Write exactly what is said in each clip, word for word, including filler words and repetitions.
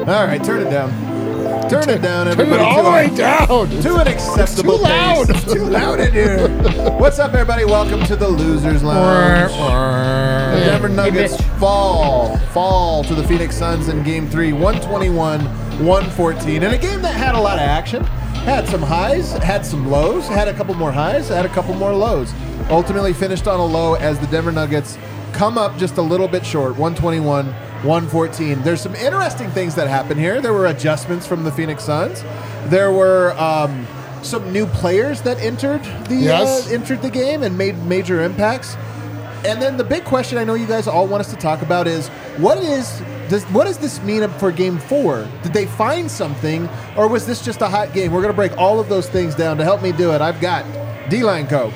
All right, turn it down. Turn it down, Turn it everybody. all the way To down. a- To an acceptable Too loud. pace. It's too loud in here. What's up, everybody? Welcome to the Losers Lounge. The Denver Nuggets fall, fall to the Phoenix Suns in Game Three, one twenty-one, one fourteen, in a game that had a lot of action, had some highs, had some lows, had a couple more highs, had a couple more lows. Ultimately finished on a low as the Denver Nuggets come up just a little bit short, one twenty-one, one fourteen. There's some interesting things that happen here. There were adjustments from the Phoenix Suns. There were um, some new players that entered the Yes. uh, entered the game and made major impacts. And then the big question I know you guys all want us to talk about is what is does what does this mean for Game Four? Did they find something, or was this just a hot game? We're going to break all of those things down. To help me do it, I've got D-Line Co.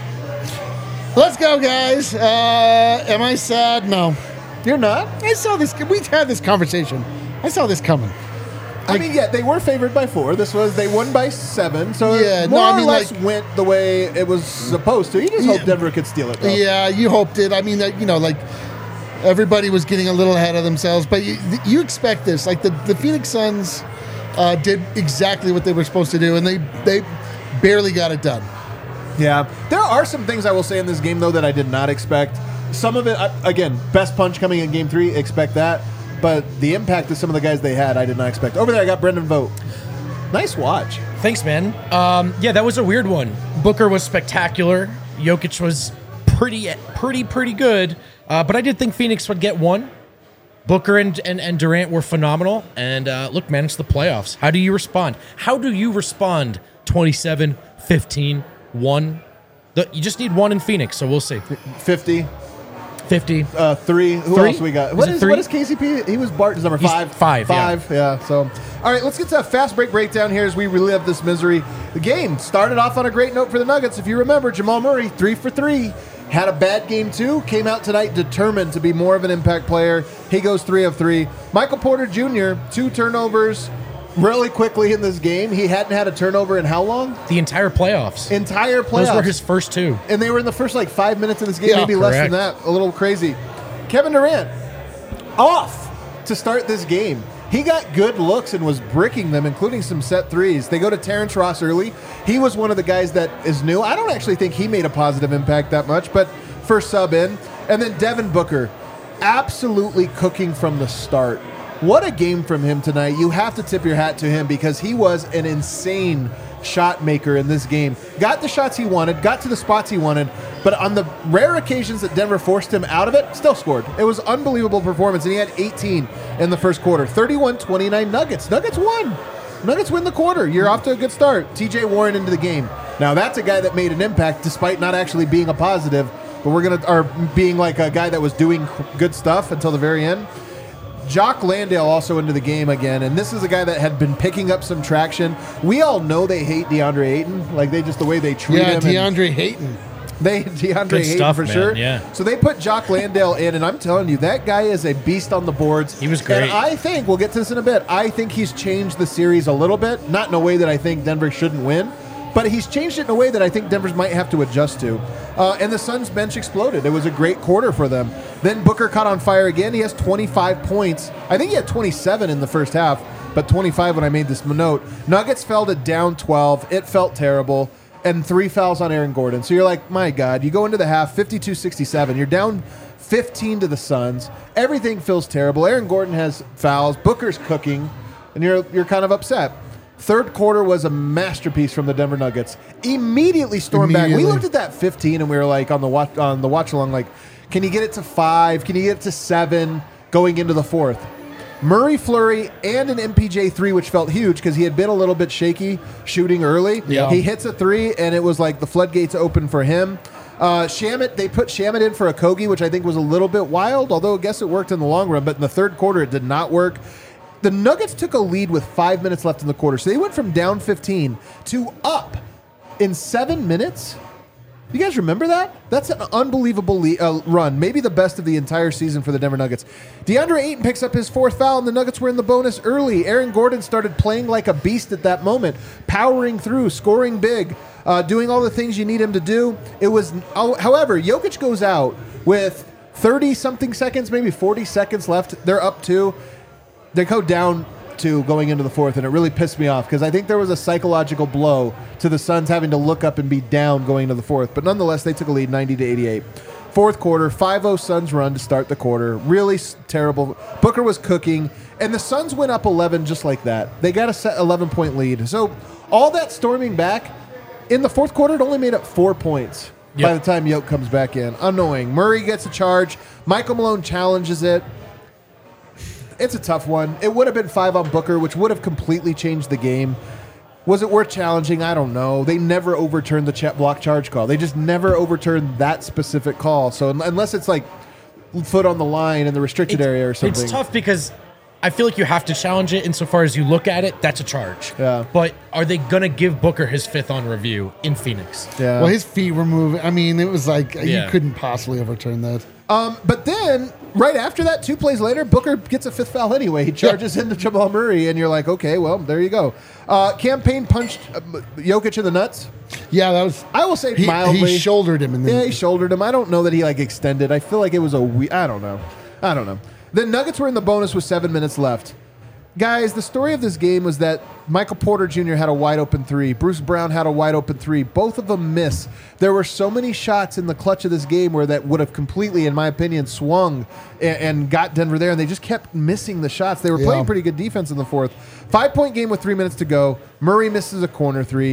Let's go, guys. Uh, am I sad? No. You're not? I saw this. We had this conversation. I saw this coming. I mean, yeah, they were favored by four. This was they won by seven, so Yeah, it no, more I or mean, less like- went the way it was supposed to. You just Yeah. hope Denver could steal it, though. Yeah, you hoped it. I mean, that you know, like everybody was getting a little ahead of themselves, but you, you expect this. Like the, the Phoenix Suns uh, did exactly what they were supposed to do, and they they barely got it done. Yeah, there are some things I will say in this game though that I did not expect. Some of it, I- again, best punch coming in Game Three, expect that. But the impact of some of the guys they had, I did not expect. Over there, I got Brendan Vogt. Nice watch. Thanks, man. Um, yeah, that was a weird one. Booker was spectacular. Jokic was pretty, pretty, pretty good. Uh, but I did think Phoenix would get one. Booker and, and, and Durant were phenomenal. And uh, look, man, it's the playoffs. How do you respond? How do you respond? twenty-seven, fifteen, one. The, you just need one in Phoenix, so we'll see. fifty, fifty. uh, three. Who Three? else we got? Is What it is, three? what is K C P? He was Barton's number He's five. five, yeah. Five, yeah. So, all right, let's get to a fast break breakdown here as we relive this misery. The game started off on a great note for the Nuggets. If you remember, Jamal Murray, three for three. Had a bad game, too. Came out tonight determined to be more of an impact player. He goes three of three. Michael Porter Junior, two turnovers really quickly in this game. He hadn't had a turnover in how long? The entire playoffs. Entire playoffs. Those were his first two. And they were in the first like five minutes of this game, Yeah, maybe less than correct. that. A little crazy. Kevin Durant off to start this game. He got good looks and was bricking them, including some set threes. They go to Terrence Ross early. He was one of the guys that is new. I don't actually think he made a positive impact that much, but first sub in. And then Devin Booker, absolutely cooking from the start. What a game from him tonight. You have to tip your hat to him because he was an insane shot maker in this game. Got the shots he wanted, got to the spots he wanted, but on the rare occasions that Denver forced him out of it, still scored. It was unbelievable performance, and he had eighteen in the first quarter. thirty-one twenty-nine Nuggets. Nuggets won. Nuggets win the quarter. You're off to a good start. T J Warren into the game. Now, that's a guy that made an impact despite not actually being a positive, but we're going to, or being like a guy that was doing good stuff until the very end. Jock Landale also into the game again, and this is a guy that had been picking up some traction. We all know they hate DeAndre Ayton, like they just the way they treat Yeah, him. and DeAndre Hayton. They DeAndre Good Ayton stuff, for man, sure. yeah. So they put Jock Landale in, and I'm telling you, that guy is a beast on the boards. He was great. And I think we'll get to this in a bit. I think he's changed the series a little bit, not in a way that I think Denver shouldn't win, but he's changed it in a way that I think Denver might have to adjust to. Uh, and the Suns bench exploded. It was a great quarter for them. Then Booker caught on fire again. He has twenty-five points. I think he had twenty-seven in the first half, but twenty-five when I made this note. Nuggets fell to down twelve. It felt terrible. And three fouls on Aaron Gordon. So you're like, my God, you go into the half, fifty-two sixty-seven. You're down fifteen to the Suns. Everything feels terrible. Aaron Gordon has fouls. Booker's cooking. And you're you're kind of upset. Third quarter was a masterpiece from the Denver Nuggets. Immediately stormed back. We Immediately. looked at that fifteen and we were like on the watch on the watch along, like, can you get it to five? Can you get it to seven going into the fourth? Murray flurry and an M P J three, which felt huge because he had been a little bit shaky shooting early. Yeah. He hits a three, and it was like the floodgates open for him. Uh, Shamit, they put Shamit in for a Kogi, which I think was a little bit wild, although I guess it worked in the long run. But in the third quarter, it did not work. The Nuggets took a lead with five minutes left in the quarter. So they went from down fifteen to up in seven minutes. You guys remember that? That's an unbelievable le- uh, run. Maybe the best of the entire season for the Denver Nuggets. DeAndre Ayton picks up his fourth foul, and the Nuggets were in the bonus early. Aaron Gordon started playing like a beast at that moment, powering through, scoring big, uh, doing all the things you need him to do. It was, oh, however, Jokic goes out with thirty-something seconds, maybe forty seconds left. They're up two. They go down two going into the fourth, and it really pissed me off because I think there was a psychological blow to the Suns having to look up and be down going into the fourth. But nonetheless, they took a lead, ninety to eighty-eight. Fourth quarter, five oh Suns run to start the quarter. Really s- terrible. Booker was cooking, and the Suns went up eleven just like that. They got a set eleven-point lead. So all that storming back, in the fourth quarter, it only made up four points Yep. by the time Yoke comes back in. Annoying. Murray gets a charge. Michael Malone challenges it. It's a tough one. It would have been five on Booker, which would have completely changed the game. Was it worth challenging? I don't know. They never overturned the ch- block charge call. They just never overturned that specific call. So un- unless it's like foot on the line in the restricted It's- area or something. It's tough because I feel like you have to challenge it insofar as you look at it, that's a charge. Yeah. But are they going to give Booker his fifth on review in Phoenix? Yeah. Well, his feet were moving. I mean, it was like Yeah. you couldn't possibly overturn that. Um, but then, right after that, two plays later, Booker gets a fifth foul anyway. He charges into Jamal Murray, and you're like, okay, well, there you go. Uh, Campaign punched uh, Jokic in the nuts. Yeah, that was. I will say He, mildly. he shouldered him, and then Yeah, he shouldered him. I don't know that he like extended. I feel like it was a we. I don't know. I don't know. The Nuggets were in the bonus with seven minutes left. Guys, the story of this game was that Michael Porter Junior had a wide open three. Bruce Brown had a wide open three. Both of them miss. There were so many shots in the clutch of this game where that would have completely, in my opinion, swung and, and got Denver there, and they just kept missing the shots. They were Yeah. playing pretty good defense in the fourth. Five-point game with three minutes to go. Murray misses a corner three.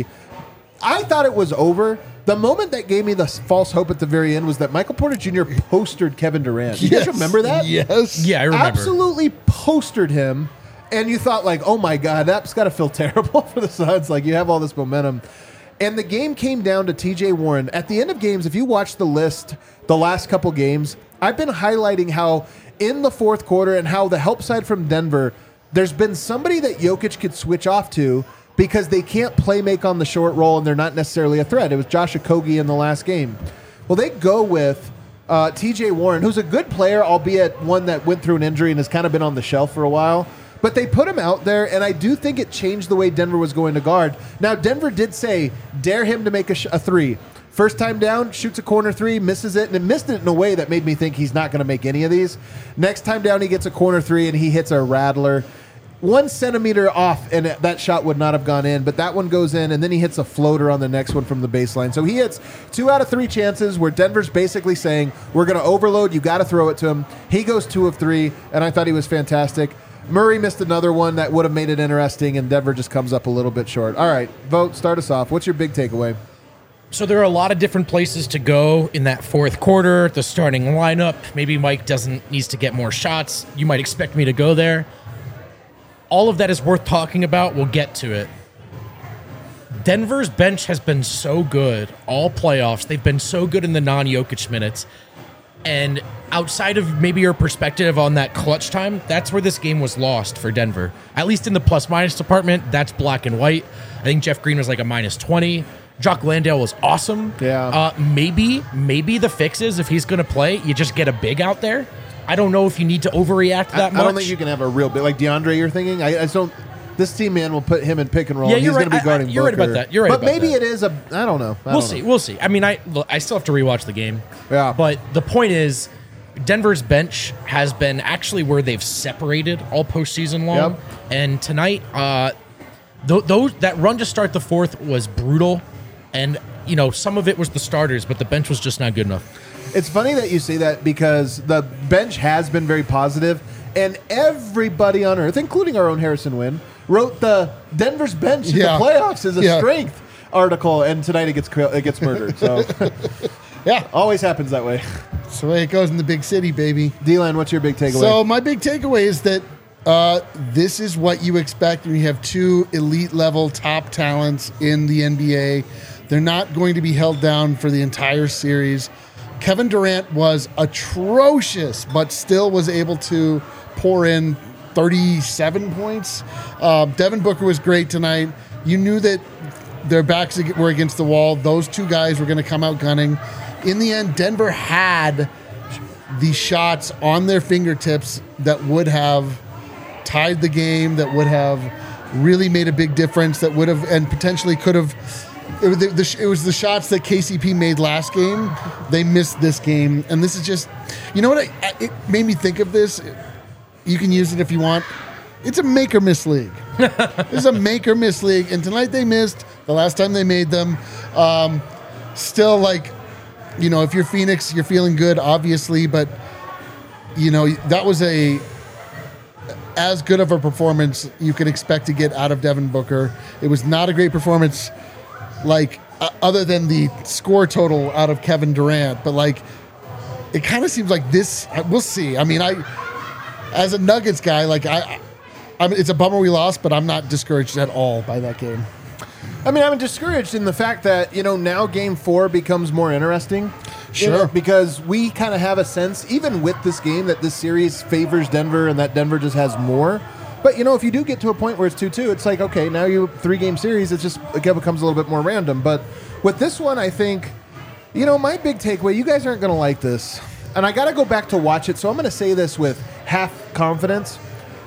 I thought it was over. The moment that gave me the false hope at the very end was that Michael Porter Junior postered Kevin Durant. You guys Yes, remember that? Yes. Yeah, I remember. Absolutely postered him. And you thought, like, oh my God, that's got to feel terrible for the Suns. Like, you have all this momentum. And the game came down to T J Warren. At the end of games, if you watch the list the last couple games, I've been highlighting how in the fourth quarter and how the help side from Denver, there's been somebody that Jokic could switch off to because they can't play make on the short roll and they're not necessarily a threat. It was Josh Okogie in the last game. Well, they go with uh, T J Warren, who's a good player, albeit one that went through an injury and has kind of been on the shelf for a while. But they put him out there, and I do think it changed the way Denver was going to guard. Now, Denver did say, dare him to make a, sh- a three. First time down, shoots a corner three, misses it, and it missed it in a way that made me think he's not going to make any of these. Next time down, he gets a corner three, and he hits a rattler. One centimeter off, and it, that shot would not have gone in, but that one goes in, and then he hits a floater on the next one from the baseline. So he hits two out of three chances where Denver's basically saying, we're going to overload, you got to throw it to him. He goes two of three, and I thought he was fantastic. Murray missed another one that would have made it interesting, and Denver just comes up a little bit short. All right, Vote, start us off. What's your big takeaway? So there are a lot of different places to go in that fourth quarter. The starting lineup. Maybe Mike doesn't needs to get more shots. You might expect me to go there. All of that is worth talking about. We'll get to it. Denver's bench has been so good all playoffs. They've been so good in the non-Jokic minutes. And outside of maybe your perspective on that clutch time, that's where this game was lost for Denver. At least in the plus-minus department, that's black and white. I think Jeff Green was like a minus twenty. Jock Landale was awesome. Yeah. Uh, maybe, maybe the fix is if he's going to play, you just get a big out there. I don't know if you need to overreact that I, much. I don't think you can have a real big, like DeAndre you're thinking. I, I just don't. This team man will put him in pick and roll. Yeah, and you're he's going right. to be guarding I- I- you're right Booker. about that. You're right But about maybe that. it is a. I don't know. I We'll don't see. know. We'll see. I mean, I look, I still have to rewatch the game. Yeah. But the point is, Denver's bench has been actually where they've separated all postseason long. Yep. And tonight, uh, th- those that run to start the fourth was brutal, and you know some of it was the starters, but the bench was just not good enough. It's funny that you say that because the bench has been very positive, and everybody on earth, including our own Harrison Wynn, wrote the Denver's bench in Yeah. the playoffs as a Yeah. strength article, and tonight it gets cr- it gets murdered. So Yeah, always happens that way. that's the way it goes in the big city, baby. D-Line, what's your big takeaway? So my big takeaway is that uh, this is what you expect when you have two elite level top talents in the N B A. They're not going to be held down for the entire series. Kevin Durant was atrocious, but still was able to pour in thirty-seven points. Uh, Devin Booker was great tonight. You knew that their backs were against the wall. Those two guys were going to come out gunning. In the end, Denver had the shots on their fingertips that would have tied the game, that would have really made a big difference, that would have and potentially could have. It was the, the, it was the shots that K C P made last game. They missed this game, and this is just, you know what? I, it made me think of this. You can use it if you want. it's a make or miss league. It's a make or miss league, and tonight they missed. The last time they made them, um, still like, you know, if you're Phoenix, you're feeling good, obviously, but you know that was a as good of a performance you can expect to get out of Devin Booker. It was not a great performance, like uh, other than the score total out of Kevin Durant, but like it kind of seems like this. We'll see. I mean, I as a Nuggets guy, like I, I mean, it's a bummer we lost, but I'm not discouraged at all by that game. I mean, I'm discouraged in the fact that, you know, now game four becomes more interesting. Sure. You know, because we kind of have a sense, even with this game, that this series favors Denver and that Denver just has more. But, you know, if you do get to a point where it's two two, it's like, okay, now you three-game series, it's just, again, becomes a little bit more random. But with this one, I think, you know, my big takeaway, you guys aren't going to like this. And I got to go back to watch it, so I'm going to say this with half confidence.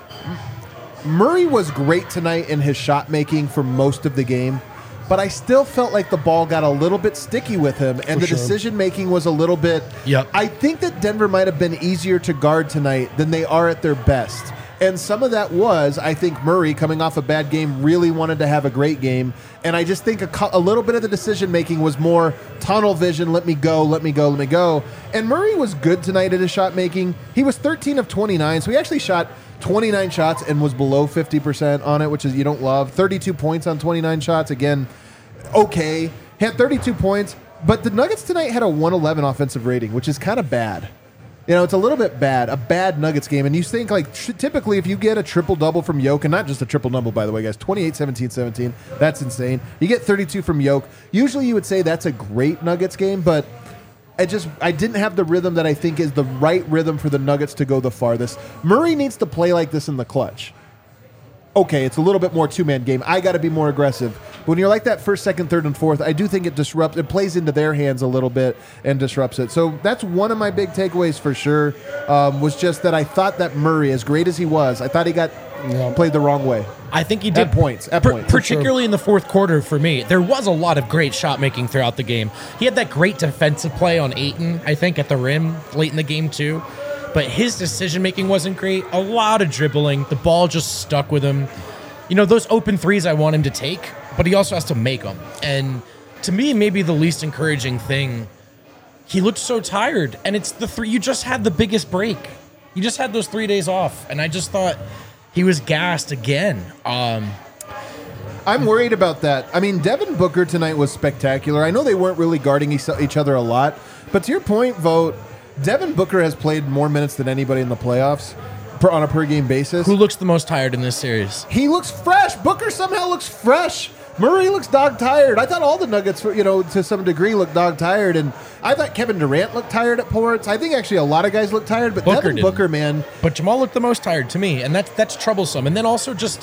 Murray was great tonight in his shot making for most of the game, but I still felt like the ball got a little bit sticky with him, and For the sure. decision making was a little bit. Yep. I think that Denver might have been easier to guard tonight than they are at their best. And some of that was, I think, Murray, coming off a bad game, really wanted to have a great game. And I just think a, co- a little bit of the decision-making was more tunnel vision, let me go, let me go, let me go. And Murray was good tonight at his shot-making. He was thirteen of twenty-nine, so he actually shot twenty-nine shots and was below fifty percent on it, which is you don't love. thirty-two points on twenty-nine shots. Again, okay. He had thirty-two points, but the Nuggets tonight had a one eleven offensive rating, which is kind of bad. You know, it's a little bit bad, a bad Nuggets game. And you think, like, tr- typically if you get a triple-double from Yoke, and not just a triple-double, by the way, guys, twenty-eight, seventeen, seventeen, that's insane. You get thirty-two from Yoke. Usually you would say that's a great Nuggets game, but I just I didn't have the rhythm that I think is the right rhythm for the Nuggets to go the farthest. Murray needs to play like this in the clutch. Okay, it's a little bit more two-man game. I got to be more aggressive. But when you're like that first, second, third, and fourth, I do think it disrupts. It plays into their hands a little bit and disrupts it. So that's one of my big takeaways for sure. Um, was just that I thought that Murray, as great as he was, I thought he got Yeah. played the wrong way. I think he did. At points, at Per- points. particularly in the fourth quarter for me. There was a lot of great shot making throughout the game. He had that great defensive play on Ayton, I think, at the rim late in the game too. But his decision making wasn't great. A lot of dribbling. The ball just stuck with him. You know, those open threes I want him to take, but he also has to make them. And to me, maybe the least encouraging thing, he looked so tired. And it's the three, you just had the biggest break. You just had those three days off. And I just thought he was gassed again. Um, I'm worried about that. I mean, Devin Booker tonight was spectacular. I know they weren't really guarding each each other a lot, but to your point, Vogt, Devin Booker has played more minutes than anybody in the playoffs per, on a per-game basis. who looks the most tired in this series? He looks fresh. Booker somehow looks fresh. Murray looks dog-tired. I thought all the Nuggets, you know, to some degree looked dog-tired, and I thought Kevin Durant looked tired at points. I think actually a lot of guys looked tired, but Booker Devin didn't. Booker, man, But Jamal looked the most tired to me, and that's that's troublesome. And then also just,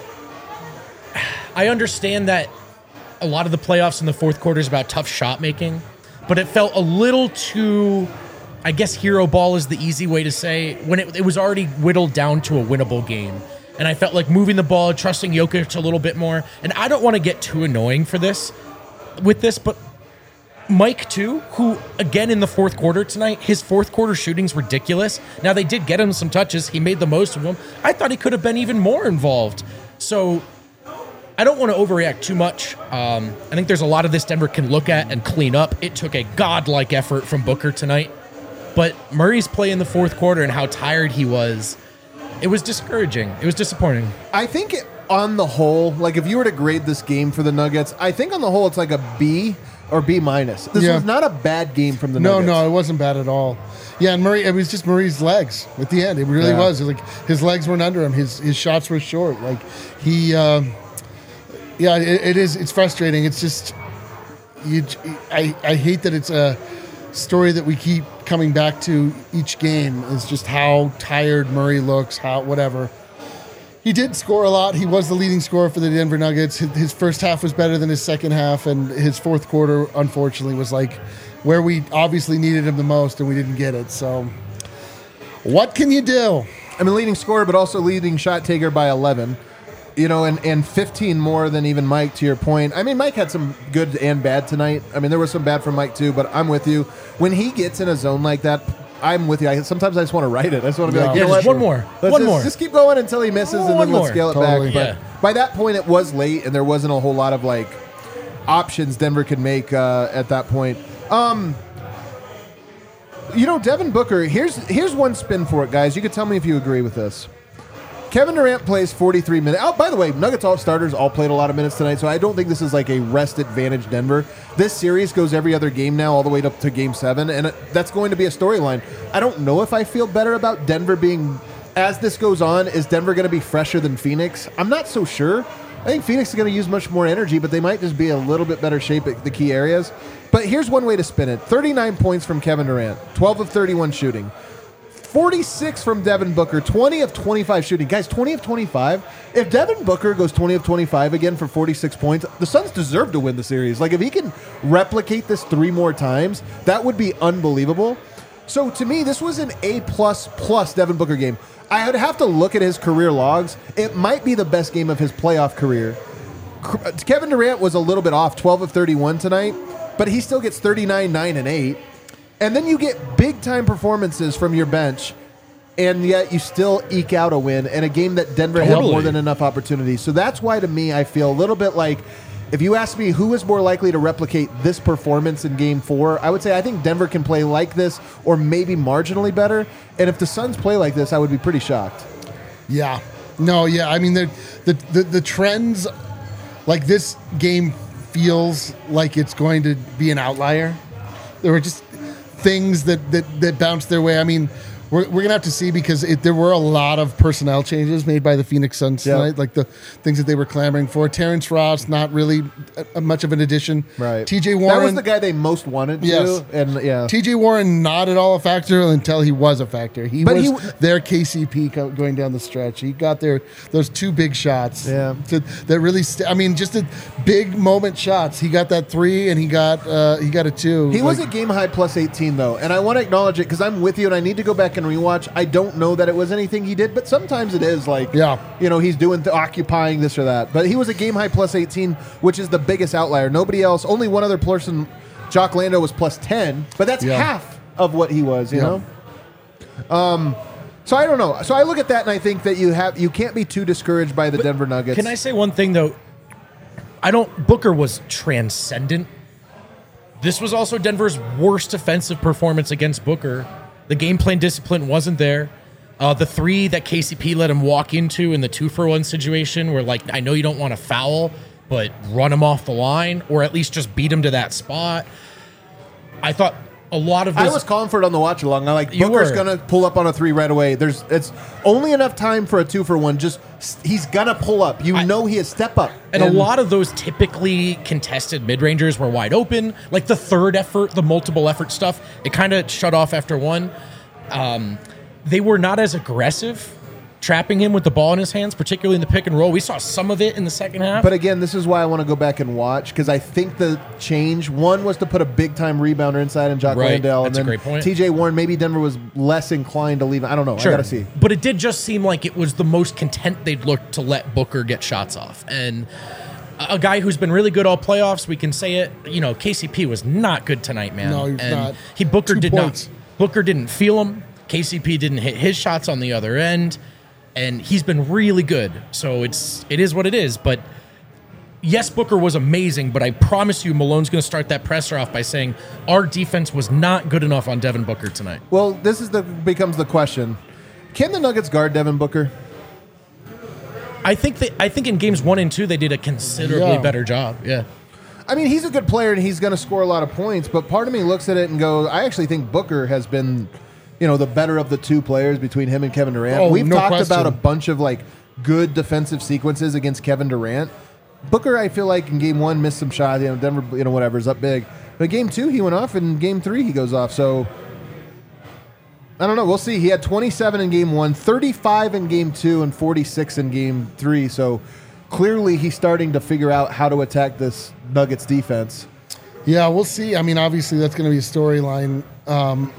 I understand that a lot of the playoffs in the fourth quarter is about tough shot making, but it felt a little too, I guess hero ball is the easy way to say, when it, it was already whittled down to a winnable game. And I felt like moving the ball, trusting Jokic a little bit more. And I don't want to get too annoying for this, with this, but Mike, too, who, again, in the fourth quarter tonight, his fourth quarter shooting's ridiculous. Now, they did get him some touches. He made the most of them. I thought he could have been even more involved. So I don't want to overreact too much. Um, I think there's a lot of this Denver can look at and clean up. It took a godlike effort from Booker tonight. But Murray's play in the fourth quarter and how tired he was, it was discouraging. It was disappointing. I think it, on the whole, like if you were to grade this game for the Nuggets, I think on the whole it's like a B or B minus. This Yeah. was not a bad game from the No, Nuggets. no, it wasn't bad at all. Yeah, and Murray, it was just Murray's legs at the end. It really Yeah. was. It was like his legs weren't under him. His his shots were short. Like he, um, yeah, it, it is. It's frustrating. It's just, you. I I hate that it's a story that we keep coming back to each game. Is just how tired Murray looks. How whatever. He did score a lot. He was the leading scorer for the Denver Nuggets. His, his first half was better than his second half, and his fourth quarter, unfortunately, was like where we obviously needed him the most, and we didn't get it. So, what can you do? I mean, leading scorer, but also leading shot taker by eleven. You know, and, and fifteen more than even Mike, to your point. I mean, Mike had some good and bad tonight. I mean, there was some bad from Mike, too, but I'm with you. When he gets in a zone like that, I'm with you. I, sometimes I just want to write it. I just want to be Yeah. like, you Yeah, know just what? one more. Let's One just, more. Just keep going until he misses, and One then let's more. scale it Totally. back. But Yeah. by that point, it was late, and there wasn't a whole lot of like options Denver could make uh, at that point. Um, you know, Devin Booker. Here's here's one spin for it, guys. You could tell me if you agree with this. Kevin Durant plays forty-three minutes. Oh, by the way, Nuggets all starters all played a lot of minutes tonight, so I don't think this is like a rest advantage Denver. This series goes every other game now, all the way up to game seven, and it, that's going to be a storyline. I don't know if I feel better about Denver being, as this goes on, is Denver going to be fresher than Phoenix? I'm not so sure. I think Phoenix is going to use much more energy, but they might just be a little bit better shape at the key areas. But here's one way to spin it. thirty-nine points from Kevin Durant, twelve of thirty-one shooting. forty-six from Devin Booker, twenty of twenty-five shooting. Guys, twenty of twenty-five. If Devin Booker goes twenty of twenty-five again for forty-six points, the Suns deserve to win the series. Like, if he can replicate this three more times, that would be unbelievable. So, to me, this was an A-plus plus Devin Booker game. I would have to look at his career logs. It might be the best game of his playoff career. Kevin Durant was a little bit off, twelve of thirty-one tonight, but he still gets thirty-nine, nine, and eight. And then you get big-time performances from your bench, and yet you still eke out a win in a game that Denver had Totally. more than enough opportunities. So that's why, to me, I feel a little bit like, if you ask me who is more likely to replicate this performance in Game four, I would say I think Denver can play like this or maybe marginally better. And if the Suns play like this, I would be pretty shocked. Yeah. No, yeah. I mean, the, the, the, the trends, like this game feels like it's going to be an outlier. There were just things that, that, that bounced their way. I mean, we're, we're going to have to see because it, there were a lot of personnel changes made by the Phoenix Suns Yep. tonight, like the things that they were clamoring for. Terrence Ross, not really a, a much of an addition. Right. T J Warren. That was the guy they most wanted to. Yes. And yeah. T J Warren, not at all a factor until he was a factor. He But was he- their K C P co- going down the stretch. He got their those two big shots. Yeah. to, that really. St- I mean, just a big moment shots. He got that three, and he got uh, he got a two. He was Like, at game high plus eighteen, though, and I want to acknowledge it because I'm with you, and I need to go back and rewatch. I don't know that it was anything he did, but sometimes it is like, Yeah. you know, he's doing th- occupying this or that. But he was a game high plus eighteen, which is the biggest outlier. Nobody else, only one other person, Jock Lando, was plus ten, but that's Yeah. half of what he was. You Yeah. know. Um. So I don't know. So I look at that and I think that you have you can't be too discouraged by the Denver Nuggets. Can I say one thing though? I don't. Booker was transcendent. This was also Denver's worst offensive performance against Booker. The game plan discipline wasn't there. Uh, the three that K C P let him walk into in the two for one situation, where like I know you don't want to foul, but run him off the line or at least just beat him to that spot. I thought a lot of this. I was calling for it on the watch along. I'm like, You Booker's were. gonna pull up on a three right away. There's it's only enough time for a two for one. Just he's gonna pull up. You I- know he is step up. And, a lot of those typically contested mid-rangers were wide open. Like the third effort, the multiple effort stuff, it kind of shut off after one. Um, they were not as aggressive trapping him with the ball in his hands, particularly in the pick and roll. We saw some of it in the second half. But again, this is why I want to go back and watch because I think the change one was to put a big time rebounder inside and Jock Right. Landale. That's a and then great point. T J Warren, maybe Denver was less inclined to leave. I don't know. I gotta see. But it did just seem like it was the most content they'd looked to let Booker get shots off. And a a guy who's been really good all playoffs, we can say it. You know, K C P was not good tonight, man. No, he was and not. He Booker Two did points. not. Booker didn't feel him. K C P didn't hit his shots on the other end, and he's been really good. So it's it is what it is. But yes, Booker was amazing. But I promise you, Malone's going to start that presser off by saying our defense was not good enough on Devin Booker tonight. Well, this is the becomes the question: can the Nuggets guard Devin Booker? I think that I think in games one and two they did a considerably Yeah. better job. Yeah. I mean, he's a good player and he's going to score a lot of points, but part of me looks at it and goes, I actually think Booker has been, you know, the better of the two players between him and Kevin Durant. Oh, We've no talked question. about a bunch of like good defensive sequences against Kevin Durant. Booker, I feel like in game one missed some shots, you know, Denver, you know, whatever, is up big. But game two, he went off, and game three, he goes off. So I don't know. We'll see. He had twenty-seven in game one, thirty-five in game two, and forty-six in game three. So clearly he's starting to figure out how to attack this Nuggets defense. Yeah, we'll see. I mean, obviously that's going to be a storyline. Um,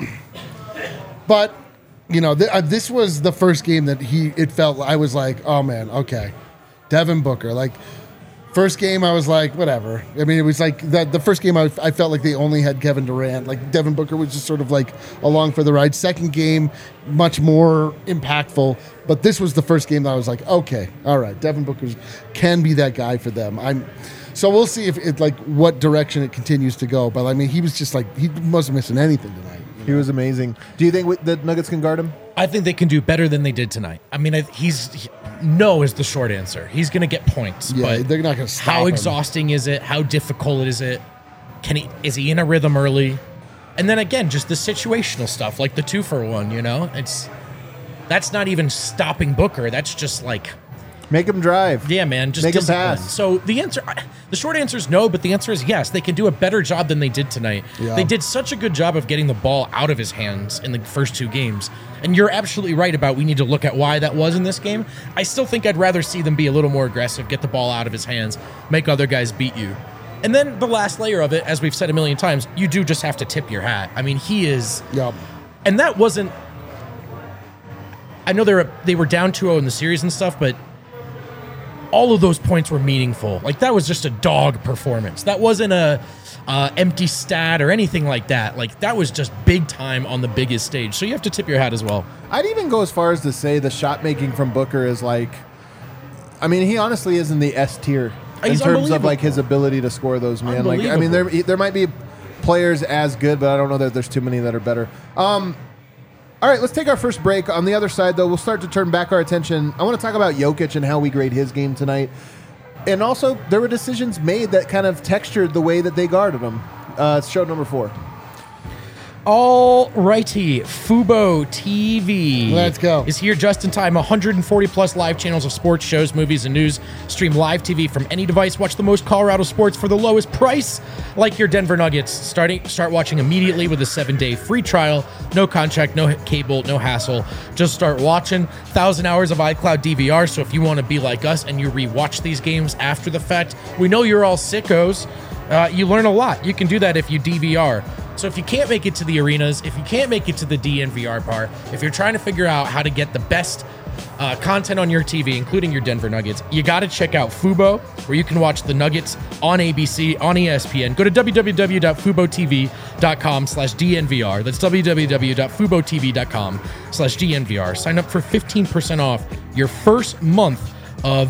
but you know, th- uh, this was the first game that he. It felt I was like, oh man, okay, Devin Booker. Like First game, I was like, whatever. I mean, it was like the, the first game, I, I felt like they only had Kevin Durant. Like Devin Booker was just sort of like along for the ride. Second game, much more impactful. But this was the first game that I was like, okay, all right, Devin Booker can be that guy for them. I'm so we'll see if it like what direction it continues to go. But I mean, he was just like he wasn't missing anything tonight. He was amazing. Do you think the Nuggets can guard him? I think they can do better than they did tonight. I mean, I, he's he, no is the short answer. He's going to get points. Yeah, but they're not going to stop how him. exhausting is it? How difficult is it? Can he? Is he in a rhythm early? And then again, just the situational stuff, like the two for one. You know, it's that's not even stopping Booker. That's just like. Make him drive. Yeah, man. Just make him discipline. pass. So the answer, the short answer is no, but the answer is yes. They can do a better job than they did tonight. Yeah. They did such a good job of getting the ball out of his hands in the first two games. And you're absolutely right about we need to look at why that was in this game. I still think I'd rather see them be a little more aggressive, get the ball out of his hands, make other guys beat you. And then the last layer of it, as we've said a million times, you do just have to tip your hat. I mean, he is. Yep. And that wasn't. I know they were they were down two oh in the series and stuff, but. All of those points were meaningful. Like, that was just a dog performance. That wasn't a uh, empty stat or anything like that. Like, that was just big time on the biggest stage. So you have to tip your hat as well. I'd even go as far as to say the shot making from Booker is like, I mean, he honestly is in the S tier in He's terms of unbelievable. like his ability to score those, man. Like, I mean, there there might be players as good, but I don't know that there's too many that are better. Um, All right, let's take our first break. On the other side, though, we'll start to turn back our attention. I want to talk about Jokic and how we grade his game tonight. And also, there were decisions made that kind of textured the way that they guarded him. Uh, it's show number four. All righty, Fubo T V. Let's go. Is here just in time. one hundred forty plus live channels of sports, shows, movies, and news. Stream live T V from any device. Watch the most Colorado sports for the lowest price. Like your Denver Nuggets. Starting, start watching immediately with a seven-day free trial. No contract, no cable, no hassle. Just start watching. one thousand hours of iCloud D V R. So if you want to be like us and you rewatch these games after the fact, we know you're all sickos. Uh, you learn a lot. You can do that if you D V R. So if you can't make it to the arenas, if you can't make it to the D N V R bar, if you're trying to figure out how to get the best uh, content on your T V, including your Denver Nuggets, you got to check out Fubo, where you can watch the Nuggets on A B C, on E S P N. Go to w w w dot fubo t v dot com slash D N V R. That's w w w dot fubo t v dot com slash D N V R. Sign up for fifteen percent off your first month of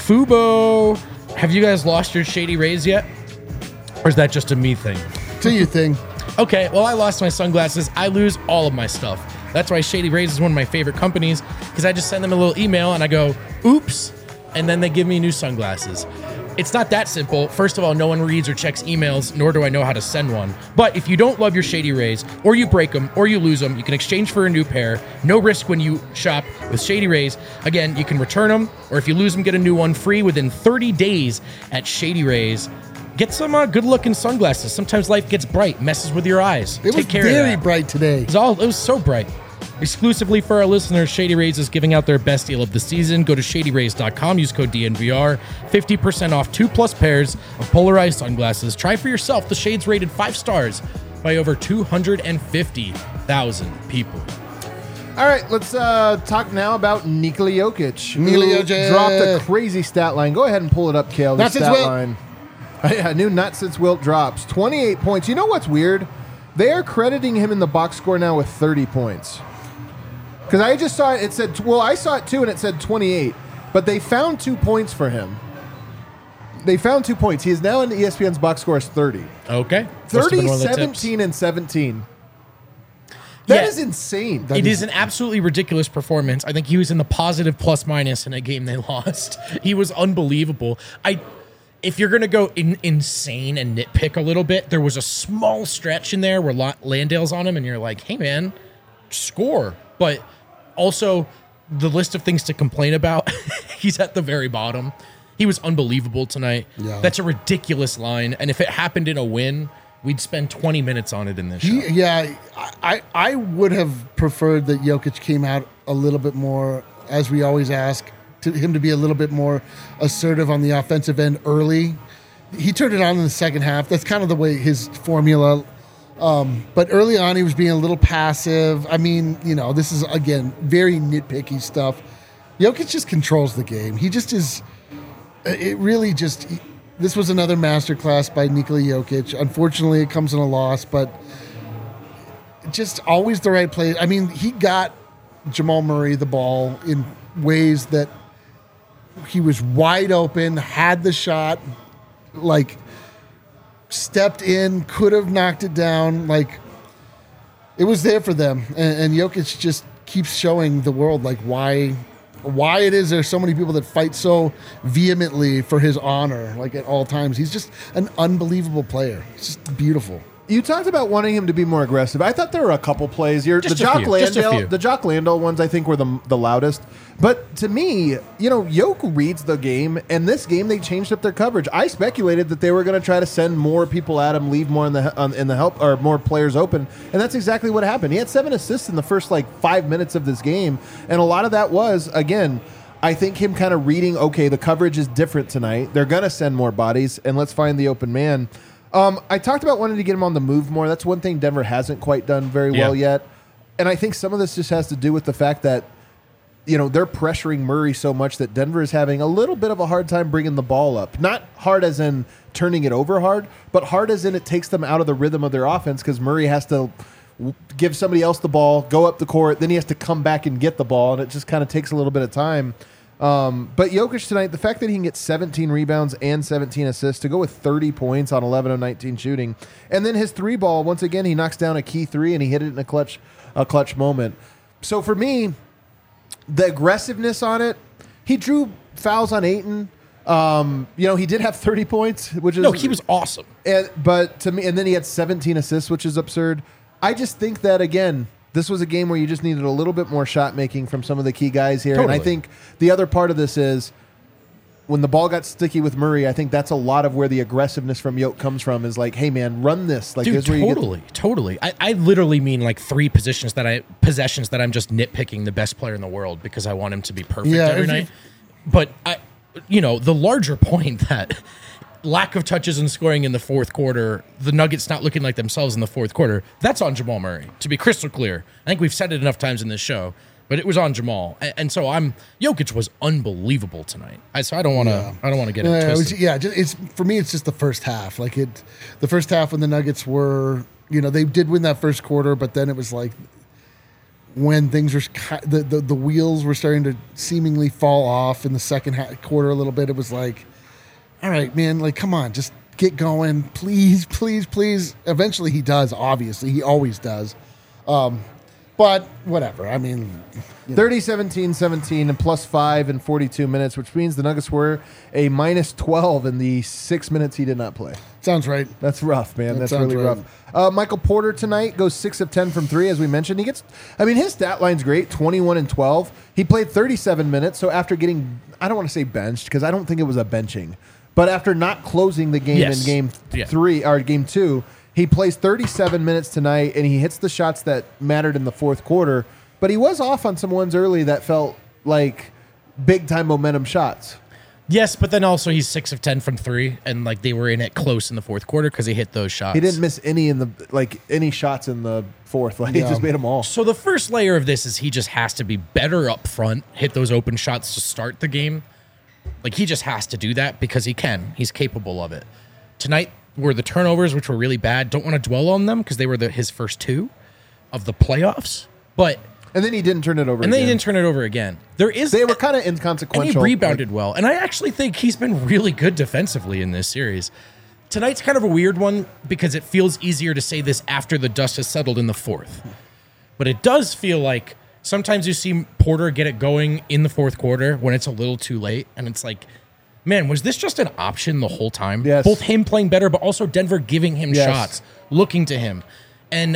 Fubo. Have you guys lost your Shady Rays yet? Or is that just a me thing? Do you thing? Okay, well, I lost my sunglasses. I lose all of my stuff. That's why Shady Rays is one of my favorite companies, because I just send them a little email and I go, oops, and then they give me new sunglasses. It's not that simple. First of all, no one reads or checks emails, nor do I know how to send one. But if you don't love your Shady Rays, or you break them, or you lose them, you can exchange for a new pair. No risk when you shop with Shady Rays. Again, you can return them, or if you lose them, get a new one free within thirty days at Shady Rays. Get some uh, good-looking sunglasses. Sometimes life gets bright, messes with your eyes. It Take was care very of that. bright today. It was all. It was so bright. Exclusively for our listeners, Shady Rays is giving out their best deal of the season. Go to shady rays dot com. Use code D N V R. fifty percent off two plus pairs of polarized sunglasses. Try for yourself. The shades rated five stars by over two hundred fifty thousand people. All right, let's uh, talk now about Nikola Jokic, who Nikola Jokic. dropped a crazy stat line. Go ahead and pull it up, Kale. The Not since stat Wilt. line. Yeah, new not since Wilt drops. twenty-eight points. You know what's weird? They are crediting him in the box score now with thirty points. Because I just saw it, it said, well, I saw it too, and it said twenty-eight. But they found two points for him. They found two points. He is now in E S P N's box score as thirty. Okay. Must have thirty, been one of the tips. seventeen, and seventeen. That Yeah. is insane. It is an absolutely ridiculous performance. I think he was in the positive plus minus in a game they lost. He was unbelievable. I, if you're going to go in, insane and nitpick a little bit, there was a small stretch in there where La- Landale's on him and you're like, hey, man, score. But also the list of things to complain about, he's at the very bottom. He was unbelievable tonight. Yeah. That's a ridiculous line. And if it happened in a win, we'd spend twenty minutes on it in this show. He, yeah, I, I would have preferred that Jokic came out a little bit more, as we always ask, to him to be a little bit more assertive on the offensive end early. He turned it on in the second half. That's kind of the way his formula. Um, but early on, he was being a little passive. I mean, you know, this is, again, very nitpicky stuff. Jokic just controls the game. He just is. It really just. this was another masterclass by Nikola Jokic. Unfortunately, it comes in a loss, but just always the right play. I mean, he got Jamal Murray the ball in ways that he was wide open, had the shot, like stepped in, could have knocked it down. Like it was there for them, and, and Jokic just keeps showing the world like why. Why it is there's so many people that fight so vehemently for his honor, like at all times. He's just an unbelievable player. It's just beautiful. You talked about wanting him to be more aggressive. I thought there were a couple plays. You're, the Just a Jock few, just a Landale, few. the Jock Landale ones, I think were the the loudest. But to me, you know, Yoke reads the game, and this game they changed up their coverage. I speculated that they were going to try to send more people at him, leave more in the on, in the help or more players open, and that's exactly what happened. He had seven assists in the first like five minutes of this game, and a lot of that was again. I think him kind of reading, okay, the coverage is different tonight. They're going to send more bodies, and let's find the open man. Um, I talked about wanting to get him on the move more. That's one thing Denver hasn't quite done very Yeah. well yet. And I think some of this just has to do with the fact that, you know, they're pressuring Murray so much that Denver is having a little bit of a hard time bringing the ball up. Not hard as in turning it over hard, but hard as in it takes them out of the rhythm of their offense because Murray has to w- give somebody else the ball, go up the court, then he has to come back and get the ball, and it just kind of takes a little bit of time. Um, but Jokic tonight, the fact that he can get seventeen rebounds and seventeen assists to go with thirty points on eleven of nineteen shooting, and then his three ball, once again, he knocks down a key three and he hit it in a clutch, a clutch moment. So for me, the aggressiveness on it, he drew fouls on Ayton. Um, you know, he did have thirty points, which is No, he was awesome. and, but to me, and then he had seventeen assists, which is absurd. I just think that again, this was a game where you just needed a little bit more shot making from some of the key guys here. Totally. And I think the other part of this is when the ball got sticky with Murray, I think that's a lot of where the aggressiveness from Yoke comes from is like, hey man, run this. Like Dude, this is where you get totally, totally. I, I literally mean like three positions that I possessions that I'm just nitpicking the best player in the world because I want him to be perfect Yeah, every if you- night. But I, you know, the larger point that lack of touches and scoring in the fourth quarter, the Nuggets not looking like themselves in the fourth quarter, that's on Jamal Murray. To be crystal clear, I think we've said it enough times in this show. But it was on Jamal, and, and so I'm Jokic was unbelievable tonight. I, so I don't want to. Yeah. I don't want to get it Yeah, it was- twisted. yeah, just, it's for me. It's just the first half. Like it, the first half when the Nuggets were, you know, they did win that first quarter, but then it was like when things were ki- the the, the wheels were starting to seemingly fall off in the second half, quarter a little bit. It was like, all right, man, like come on, just get going, please, please, please. Eventually, he does. Obviously, he always does. Um, but whatever. I mean, thirty, seventeen, seventeen, and plus five in forty-two minutes, which means the Nuggets were a minus twelve in the six minutes he did not play. sounds right. That's rough, man. That That's sounds really right. rough. Uh, Michael Porter tonight goes six of ten from three, as we mentioned. He gets, I mean, his stat line's great, twenty-one and twelve. He played thirty-seven minutes, so after getting, I don't want to say benched, because I don't think it was a benching, but after not closing the game Yes. in game Yeah. three, or game two, he plays thirty-seven minutes tonight, and he hits the shots that mattered in the fourth quarter, but he was off on some ones early that felt like big-time momentum shots. Yes, but then also he's six of ten from three, and like they were in it close in the fourth quarter because he hit those shots. He didn't miss any in the, like, any shots in the fourth. Like, he Yeah. just made them all. So the first layer of this is he just has to be better up front, hit those open shots to start the game. Like he just has to do that because he can. He's capable of it. Tonight were the turnovers, which were really bad. Don't want to dwell on them because they were the, his first two of the playoffs. But And then he didn't turn it over and then again. he didn't turn it over again. There is They were kind of and inconsequential. he rebounded well. And I actually think he's been really good defensively in this series. Tonight's kind of a weird one because it feels easier to say this after the dust has settled in the fourth. But it does feel like sometimes you see Porter get it going in the fourth quarter when it's a little too late. And it's like, man, was this just an option the whole time? Yes. Both him playing better, but also Denver giving him Yes. shots, looking to him. And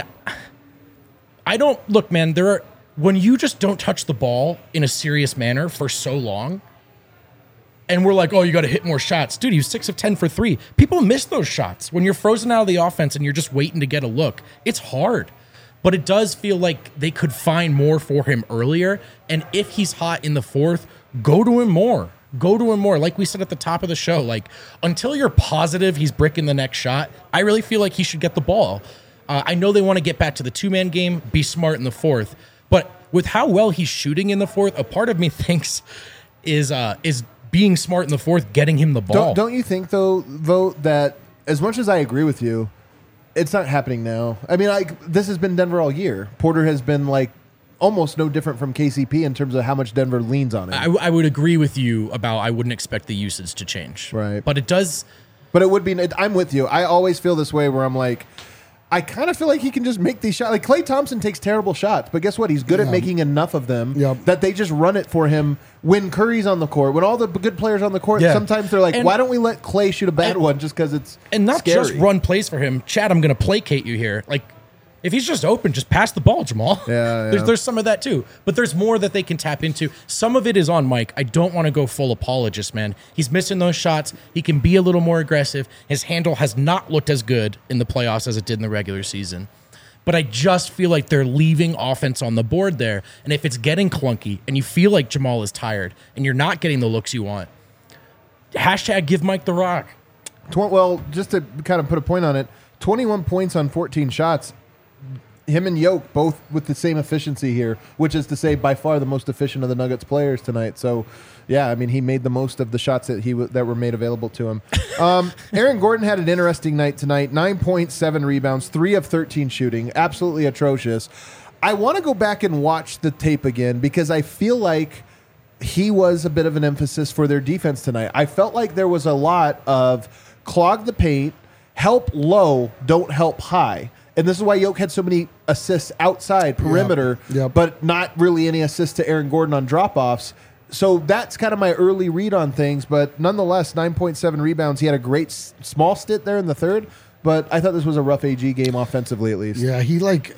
I don't look, man, there are when you just don't touch the ball in a serious manner for so long, and we're like, oh, you got to hit more shots. Dude, he was six of ten for three. People miss those shots. When you're frozen out of the offense and you're just waiting to get a look, it's hard. But it does feel like they could find more for him earlier. And if he's hot in the fourth, go to him more. Go to him more. Like we said at the top of the show, like until you're positive he's bricking the next shot, I really feel like he should get the ball. Uh, I know they want to get back to the two-man game, be smart in the fourth. But with how well he's shooting in the fourth, a part of me thinks is uh, is being smart in the fourth, getting him the ball. Don't, don't you think, though, Vote, that as much as I agree with you, it's not happening now. I mean, like this has been Denver all year. Porter has been like almost no different from K C P in terms of how much Denver leans on it. I, I would agree with you about I wouldn't expect the usage to change. Right. But it does. But it would be, I'm with you. I always feel this way where I'm like, I kind of feel like he can just make these shots. Like Klay Thompson takes terrible shots, but guess what? He's good Yeah. at making enough of them Yep. that they just run it for him when Curry's on the court. When all the good players on the court, Yeah. sometimes they're like, And- why don't we let Klay shoot a bad and- one just because it's And not scary. just run plays for him. Chad, I'm going to placate you here. Like, if he's just open, just pass the ball, Jamal. Yeah, yeah. There's, there's some of that too. But there's more that they can tap into. Some of it is on Mike. I don't want to go full apologist, man. He's missing those shots. He can be a little more aggressive. His handle has not looked as good in the playoffs as it did in the regular season. But I just feel like they're leaving offense on the board there. And if it's getting clunky and you feel like Jamal is tired and you're not getting the looks you want, hashtag give Mike the rock. Tw- well, just to kind of put a point on it, twenty-one points on fourteen shots. Him and Yoke both with the same efficiency here, which is to say by far the most efficient of the Nuggets players tonight. So, yeah, I mean, he made the most of the shots that he w- that were made available to him. Um, Aaron Gordon had an interesting night tonight. nine point seven rebounds, three of thirteen shooting. Absolutely atrocious. I want to go back and watch the tape again because I feel like he was a bit of an emphasis for their defense tonight. I felt like there was a lot of clog the paint, help low, don't help high. And this is why Yoke had so many assists outside perimeter, Yep. Yep. but not really any assists to Aaron Gordon on drop-offs. So that's kind of my early read on things. But nonetheless, nine point seven rebounds. He had a great s- small stint there in the third, but I thought this was a rough A G game offensively at least. Yeah, he like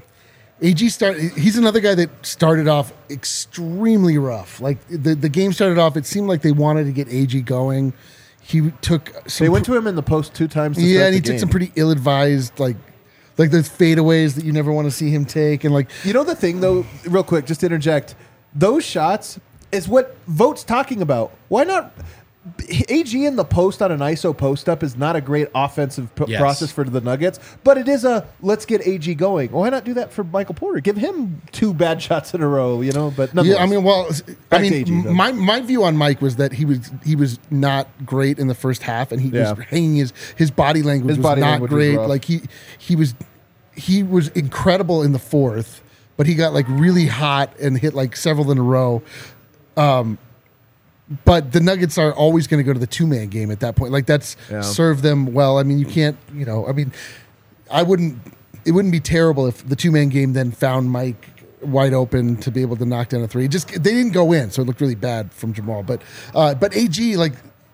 A G start. He's another guy that started off extremely rough. Like the the game started off, it seemed like they wanted to get A G going. He took some. They went to him in the post two times to yeah, start and he the took game. some pretty ill-advised like like those fadeaways that you never want to see him take, and like You know the thing, though, real quick, just to interject, those shots is what Vote's talking about. Why not? A G in the post on an I S O post-up is not a great offensive p- Yes. process for the Nuggets, but it is a let's get A G going. Why not do that for Michael Porter? Give him two bad shots in a row, you know? But yeah, I mean, well, I Back to mean, A G, though. my my view on Mike was that he was he was not great in the first half, and he Yeah. was hanging his his body language His was body not language was great. rough. Like he he was he was incredible in the fourth, but he got like really hot and hit like several in a row. Um, but the Nuggets are always going to go to the two man game at that point. Like that's Yeah. served them well. I mean, you can't, you know, I mean, I wouldn't. It wouldn't be terrible if the two man game then found Mike wide open to be able to knock down a three. Just they didn't go in, so it looked really bad from Jamal. But uh, but A G like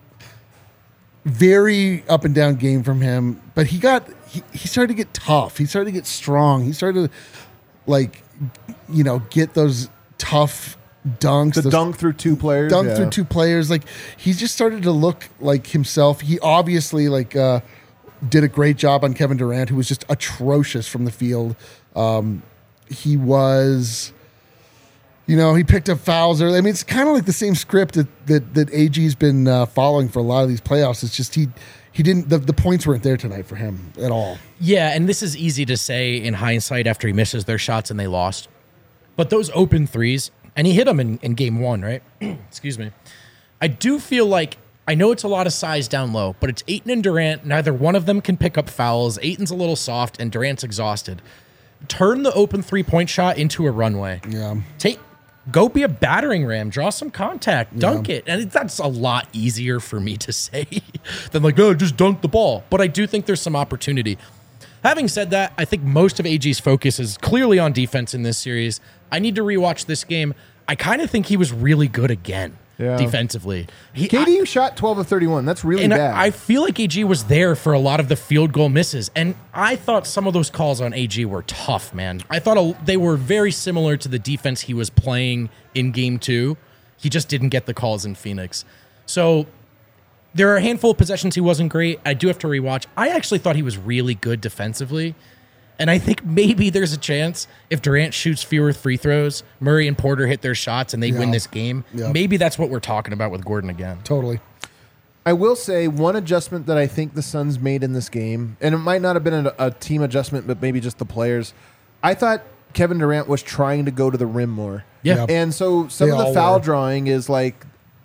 very up and down game from him. But he got he, he started to get tough. He started to get strong. He started to like you know get those tough dunks. the those, dunk through two players. dunk yeah. through two players. Like he just started to look like himself. He obviously like uh, did a great job on Kevin Durant, who was just atrocious from the field. Um, he was, you know, he picked up fouls early. I mean, it's kind of like the same script that that, that A G's been uh, following for a lot of these playoffs. It's just he he didn't the, the points weren't there tonight for him at all. Yeah, and this is easy to say in hindsight after he misses their shots and they lost. But those open threes, and he hit them in, in game one, right? Excuse me. I do feel like, I know it's a lot of size down low, but it's Ayton and Durant. Neither one of them can pick up fouls. Ayton's a little soft, and Durant's exhausted. Turn the open three-point shot into a runway. Yeah. Take, go be a battering ram. Draw some contact. Dunk it. And that's a lot easier for me to say than like, oh, just dunk the ball. But I do think there's some opportunity. Having said that, I think most of A G's focus is clearly on defense in this series. I need to rewatch this game. I kind of think he was really good again Yeah. defensively. He, K I- D shot twelve of thirty-one. That's really and bad. I, I feel like A G was there for a lot of the field goal misses. And I thought some of those calls on A G were tough, man. I thought a, they were very similar to the defense he was playing in game two. He just didn't get the calls in Phoenix. So there are a handful of possessions he wasn't great. I do have to rewatch. I actually thought he was really good defensively. And I think maybe there's a chance if Durant shoots fewer free throws, Murray and Porter hit their shots and they Yeah. win this game. Yeah. Maybe that's what we're talking about with Gordon again. Totally. I will say one adjustment that I think the Suns made in this game, and it might not have been a, a team adjustment, but maybe just the players. I thought Kevin Durant was trying to go to the rim more. Yeah. Yeah. And so some They of the all foul were. drawing is like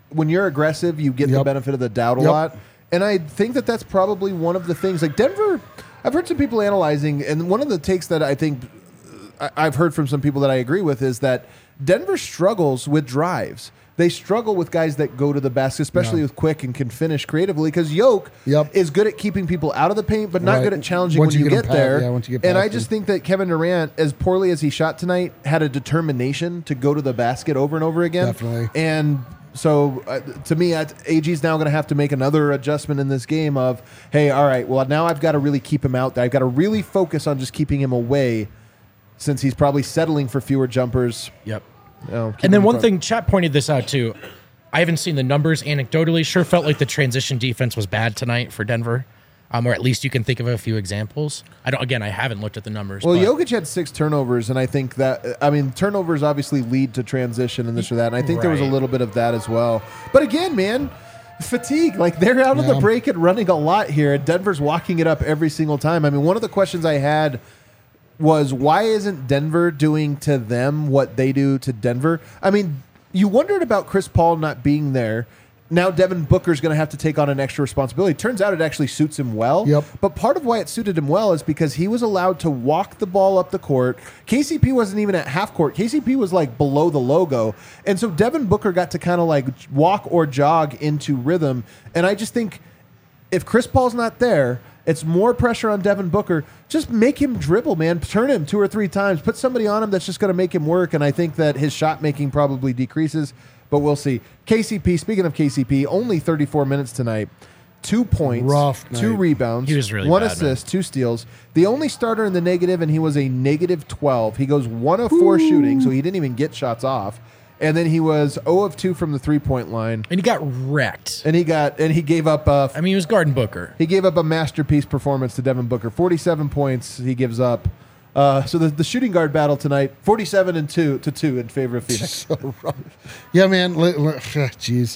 when you're aggressive, you get the Yep. benefit of the doubt a Yep. lot. And I think that that's probably one of the things. Like Denver, I've heard some people analyzing, and one of the takes that I think I- I've heard from some people that I agree with is that Denver struggles with drives. They struggle with guys that go to the basket, especially Yeah. with quick and can finish creatively. Because Yoke Yep. is good at keeping people out of the paint, but not Right. good at challenging Once when you you get get, him past- there. yeah, once you get and I past just him. think that Kevin Durant, as poorly as he shot tonight, had a determination to go to the basket over and over again. Definitely. And so, uh, to me, I- A G's now going to have to make another adjustment in this game of, hey, all right, well, now I've got to really keep him out there. I've got to really focus on just keeping him away since he's probably settling for fewer jumpers. Yep. You know, keep And then him one front. thing, chat pointed this out too. I haven't seen the numbers anecdotally. Sure felt like the transition defense was bad tonight for Denver, um, or at least you can think of a few examples. I don't. Again, I haven't looked at the numbers. Well, but Jokic had six turnovers, and I think that, I mean, turnovers obviously lead to transition and this or that, and I think there was a Right. little bit of that as well. But again, man, fatigue. Like, they're out of Yeah. the break and running a lot here, and Denver's walking it up every single time. I mean, one of the questions I had was, why isn't Denver doing to them what they do to Denver? I mean, you wondered about Chris Paul not being there. Now Devin Booker's going to have to take on an extra responsibility. Turns out it actually suits him well. Yep. But part of why it suited him well is because he was allowed to walk the ball up the court. K C P wasn't even at half court. K C P was like below the logo. And so Devin Booker got to kind of like walk or jog into rhythm. And I just think if Chris Paul's not there, it's more pressure on Devin Booker. Just make him dribble, man. Turn him two or three times. Put somebody on him that's just going to make him work. And I think that his shot making probably decreases, but we'll see. K C P, speaking of K C P, only thirty-four minutes tonight. Two points, Rough two night. rebounds, He was really one bad, assist, two steals. The only starter in the negative, and he was a negative twelve. He goes one of four shooting, so he didn't even get shots off. And then he was zero of two from the three-point line. and he got wrecked. And he got and he gave up a I mean, he was guarding Booker. he gave up a masterpiece performance to Devin Booker. forty-seven points he gives up. Uh, so the, the shooting guard battle tonight, forty-seven and two to two in favor of Phoenix. So rough. Yeah, man. li- li- Jeez.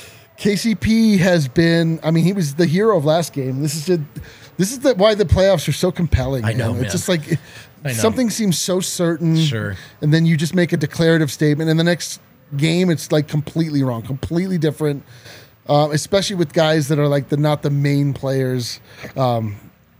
K C P has been. I mean, he was the hero of last game. This is a, this is the, why the playoffs are so compelling. I know, man. man. It's just like I know. something seems so certain. Sure. And then you just make a declarative statement, and the next game it's like completely wrong, completely different. Um, especially with guys that are like the not the main players. Um,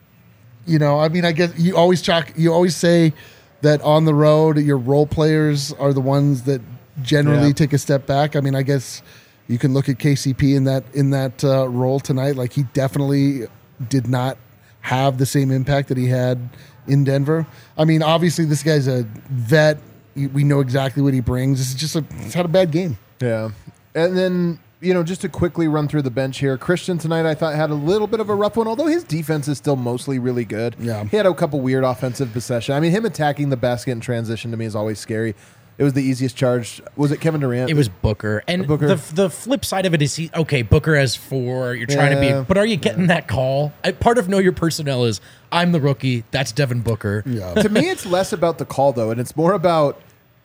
you know, I mean, I guess you always chalk. You always say that on the road, your role players are the ones that generally Yeah. take a step back. I mean, I guess you can look at K C P in that in that uh, role tonight. Like he definitely did not have the same impact that he had in Denver. I mean, obviously this guy's a vet. We know exactly what he brings. This is just a he's had a bad game. Yeah. And then, you know, just to quickly run through the bench here, Christian tonight I thought had a little bit of a rough one, although his defense is still mostly really good. Yeah. He had a couple weird offensive possession. I mean, him attacking the basket in transition to me is always scary. It was the easiest charge. Was it Kevin Durant? It was Booker. And Booker. the the flip side of it is he okay, Booker has four. You're trying Yeah. to be but are you getting that call? I, part of know your personnel is I'm the rookie, that's Devin Booker. Yeah. To me, it's less about the call, though, and it's more about,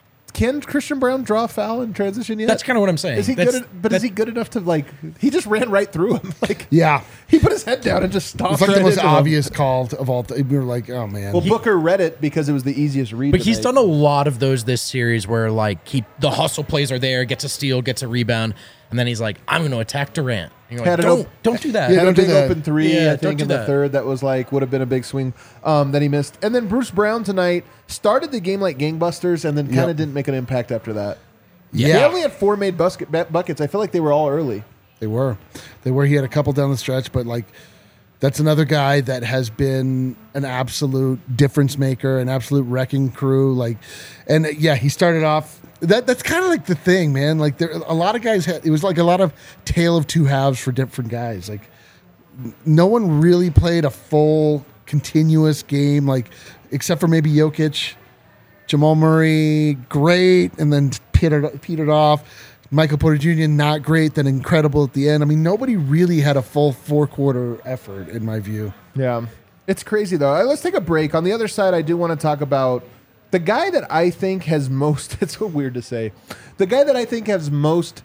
can Christian Brown draw a foul in transition yet? That's kind of what I'm saying. Is he That's- good? At, but is that- he good enough to, like, he just ran right through him. Like, Yeah. he put his head down and just stomped It's like right the most into him. obvious call of all. Th- we were like, oh man. Well, Booker read it because it was the easiest read. But he's tonight. done a lot of those this series where like he the hustle plays are there, gets a steal, gets a rebound, and then he's like, I'm going to attack Durant. And you're like, Had an don't op- don't do that. Yeah, Had a don't do big that. open three, Yeah, I don't think, do in the that. third. That was like would have been a big swing um, that he missed. And then Bruce Brown tonight started the game like gangbusters, and then kind of Yep. didn't make an impact after that. Yeah. They only had four made busket, bu- buckets. I feel like they were all early. They were. They were. He had a couple down the stretch, but like that's another guy that has been an absolute difference maker, an absolute wrecking crew. Like, and uh, yeah, he started off. That that's kind of like the thing, man. Like there, a lot of guys had. It was like a lot of tale of two halves for different guys. Like n- no one really played a full continuous game, like except for maybe Jokic. Jamal Murray, great, and then petered, petered off. Michael Porter Junior, not great, then incredible at the end. I mean, nobody really had a full four-quarter effort, in my view. Yeah. It's crazy, though. Uh, Let's take a break. On the other side, I do want to talk about the guy that I think has most, it's so weird to say, the guy that I think has most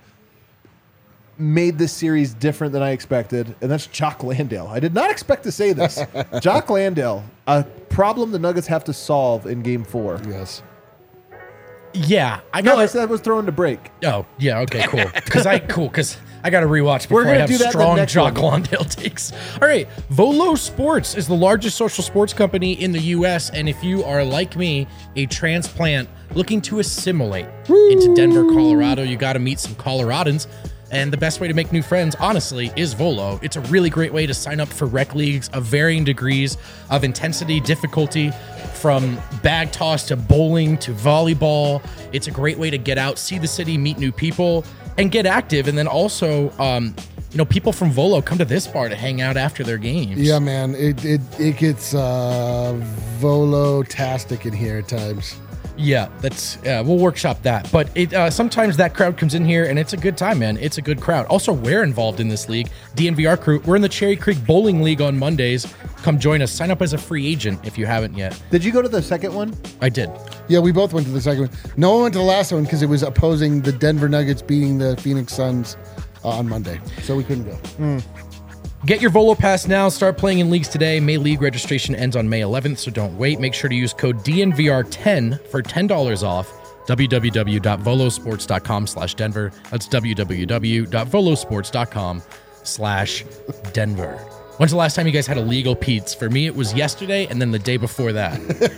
made this series different than I expected, and that's Jock Landale. I did not expect to say this. Jock Landale, a problem the Nuggets have to solve in game four. Yes. Yeah, I No, got. I said I was throwing to break. Oh, yeah, okay, cool. Because I cool because I got to rewatch before We're gonna I have do that in the strong next Jock one. Lawndale takes. All right, Volo Sports is the largest social sports company in the U S, and if you are like me, a transplant looking to assimilate into Denver, Colorado, you got to meet some Coloradans. And the best way to make new friends, honestly, is Volo. It's a really great way to sign up for rec leagues of varying degrees of intensity, difficulty, from bag toss to bowling to volleyball. It's a great way to get out, see the city, meet new people, and get active. And then also, um, you know, people from Volo come to this bar to hang out after their games. Yeah, man, it it, it gets uh, Volo-tastic in here at times. Yeah, that's uh, we'll workshop that. But it uh, sometimes that crowd comes in here and it's a good time, man. It's a good crowd. Also, we're involved in this league, D N V R crew. We're in the Cherry Creek Bowling League on Mondays. Come join us. Sign up as a free agent if you haven't yet. Did you go to the second one? I did. Yeah, we both went to the second one. No one went to the last one because it was opposing the Denver Nuggets beating the Phoenix Suns uh, on Monday, so we couldn't go. Mm. Get your Volo Pass now. Start playing in leagues today. May League registration ends on May eleventh, so don't wait. Make sure to use code D N V R ten for ten dollars off. w w w dot volosports dot com slash Denver. That's w w w dot volosports dot com slash Denver. When's the last time you guys had illegal Pete's? For me, it was yesterday and then the day before that.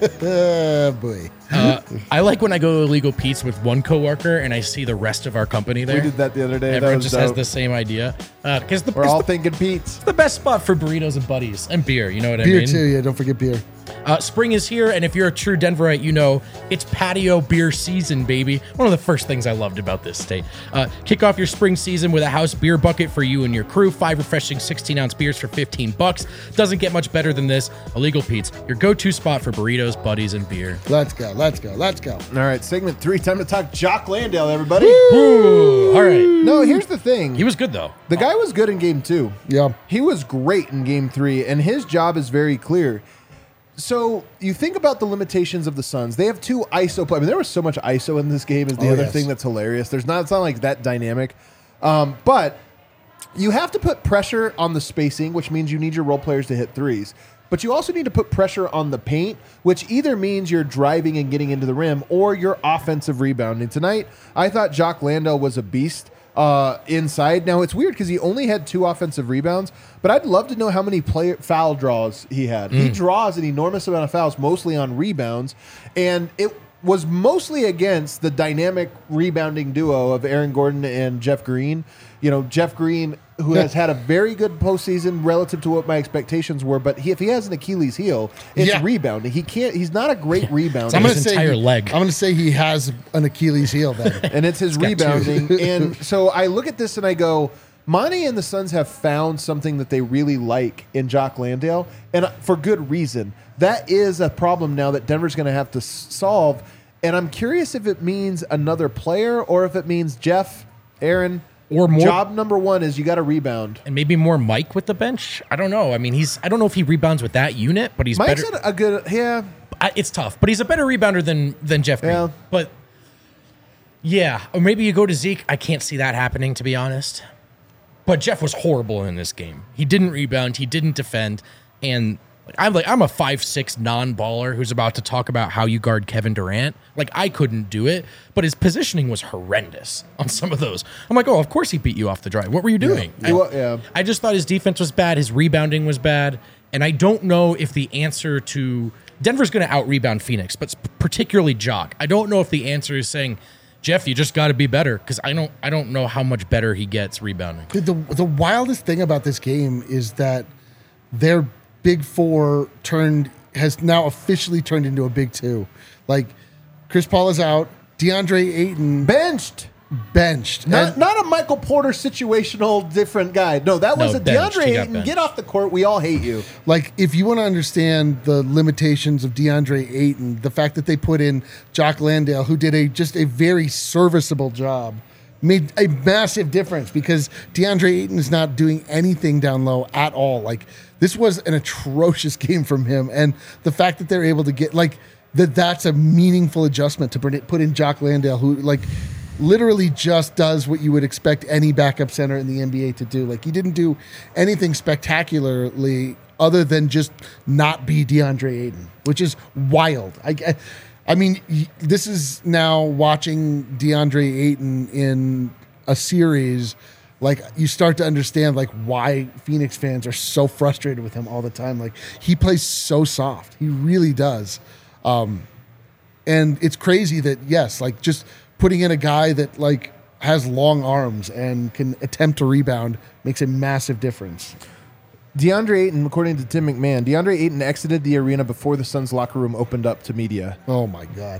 Oh, boy. Uh, I like when I go to illegal Pete's with one coworker and I see the rest of our company there. We did that the other day. Everyone that was just has dope. the same idea. Because the, We're it's all the, thinking Pete's. the best spot for burritos and buddies and beer. You know what I Beer mean? too, yeah. Don't forget beer. Uh, spring is here, and if you're a true Denverite, you know it's patio beer season, baby. One of the first things I loved about this state. Uh, kick off your spring season with a house beer bucket for you and your crew. Five refreshing sixteen-ounce beers for fifteen bucks. Doesn't get much better than this. Illegal Pete's, your go-to spot for burritos, buddies, and beer. Let's go. Let's go. Let's go. All right, segment three. Time to talk Jock Landale, everybody. Ooh, all right. No, here's the thing. He was good, though. The guy was good in game two. Yeah. He was great in game three, and his job is very clear. So you think about the limitations of the Suns. They have two I S O play. I mean, there was so much I S O in this game is the Oh, other yes. thing that's hilarious. There's not, it's not like that dynamic. Um, but you have to put pressure on the spacing, which means you need your role players to hit threes. But you also need to put pressure on the paint, which either means you're driving and getting into the rim or you're offensive rebounding. Tonight, I thought Jock Landale was a beast uh, inside. Now, it's weird because he only had two offensive rebounds, but I'd love to know how many player foul draws he had. He draws an enormous amount of fouls, mostly on rebounds, and it was mostly against the dynamic rebounding duo of Aaron Gordon and Jeff Green. You know, Jeff Green, who has had a very good postseason relative to what my expectations were, but he, if he has an Achilles heel, it's Yeah. rebounding. He can't. He's not a great rebounder. I'm gonna his say entire he- leg. I'm going to say he has an Achilles heel then. and it's his got two. rebounding. And so I look at this and I go, Monty and the Suns have found something that they really like in Jock Landale, and for good reason. That is a problem now that Denver's going to have to s- solve. And I'm curious if it means another player or if it means Jeff, Aaron, Or more- job number one is you got to rebound. And maybe more Mike with the bench. I don't know. I mean, he's. I don't know if he rebounds with that unit, but he's Mike's better. a good, yeah. I, it's tough, but he's a better rebounder than than Jeff Green. Yeah. But yeah, or maybe you go to Zeke. I can't see that happening, to be honest. But Jeff was horrible in this game. He didn't rebound. He didn't defend. And like, I'm like I'm a five six non-baller who's about to talk about how you guard Kevin Durant. Like I couldn't do it, but his positioning was horrendous on some of those. I'm like, oh, of course he beat you off the drive. What were you doing? Yeah. Well, yeah. I just thought his defense was bad. His rebounding was bad. And I don't know if the answer to Denver's going to out rebound Phoenix, but particularly Jock. I don't know if the answer is saying, Jeff, you just got to be better, because I don't I don't know how much better he gets rebounding. Dude, the the wildest thing about this game is that their big four turned has now officially turned into a big two. Like Chris Paul is out, DeAndre Ayton Benched. benched. Not, And- not a Michael Porter situational different guy. No, that was No, a benched. DeAndre He got Ayton. benched. Get off the court. We all hate you. Like, if you want to understand the limitations of DeAndre Ayton, the fact that they put in Jock Landale, who did a just a very serviceable job, made a massive difference because DeAndre Ayton is not doing anything down low at all. Like, this was an atrocious game from him, and the fact that they're able to get like that, that's a meaningful adjustment to put it- put in Jock Landale, who like. Literally just does what you would expect any backup center in the N B A to do. Like, he didn't do anything spectacularly other than just not be DeAndre Ayton, which is wild. I, I, I mean, y- this is now watching DeAndre Ayton in a series. Like, you start to understand like why Phoenix fans are so frustrated with him all the time. Like, he plays so soft. He really does. Um, and it's crazy that, yes, like just putting in a guy that like has long arms and can attempt to rebound makes a massive difference. DeAndre Ayton, according to Tim McMahon, DeAndre Ayton exited the arena before the Suns locker room opened up to media. Oh my God.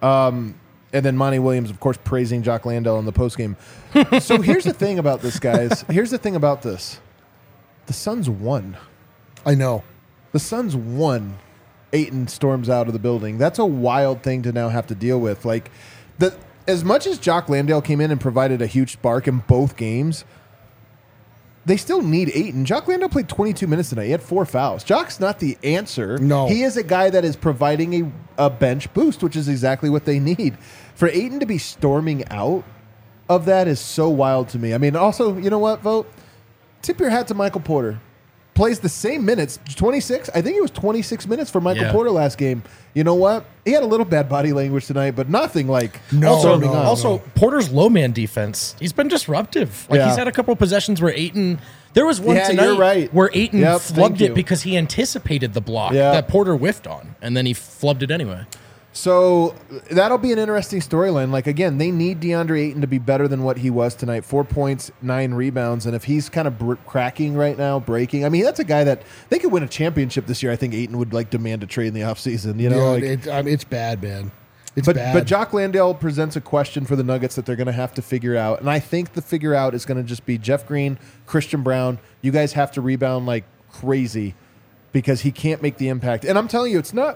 And then Monty Williams, of course, praising Jock Landale in the postgame. So here's the thing about this, guys. Here's the thing about this. The Suns won. I know. The Suns won. Ayton storms out of the building. That's a wild thing to now have to deal with. Like, the as much as Jock Landale came in and provided a huge spark in both games, they still need Ayton. Jock Landale played twenty-two minutes tonight. He had four fouls. Jock's not the answer. No. He is a guy that is providing a, a bench boost, which is exactly what they need. For Ayton to be storming out of that is so wild to me. I mean, also, you know what, Vote? Tip your hat to Michael Porter. Plays the same minutes, twenty-six. I think it was twenty-six minutes for Michael Yeah. Porter last game. You know what? He had a little bad body language tonight, but nothing like No, Also, storming no, out. also Porter's low man defense. He's been disruptive. Like Yeah. he's had a couple of possessions where Ayton. There was one Yeah, tonight you're right. where Ayton Yep, thank flubbed you. it because he anticipated the block Yeah. that Porter whiffed on, and then he flubbed it anyway. So that'll be an interesting storyline. Like, again, they need DeAndre Ayton to be better than what he was tonight. Four points, nine rebounds. And if he's kind of br- cracking right now, breaking, I mean, that's a guy that they could win a championship this year. I think Ayton would like demand a trade in the offseason. You know, Yeah, like, it, I mean, it's bad, man. It's but bad. but Jock Landale presents a question for the Nuggets that they're going to have to figure out. And I think the figure out is going to just be Jeff Green, Christian Brown. You guys have to rebound like crazy because he can't make the impact. And I'm telling you, it's not,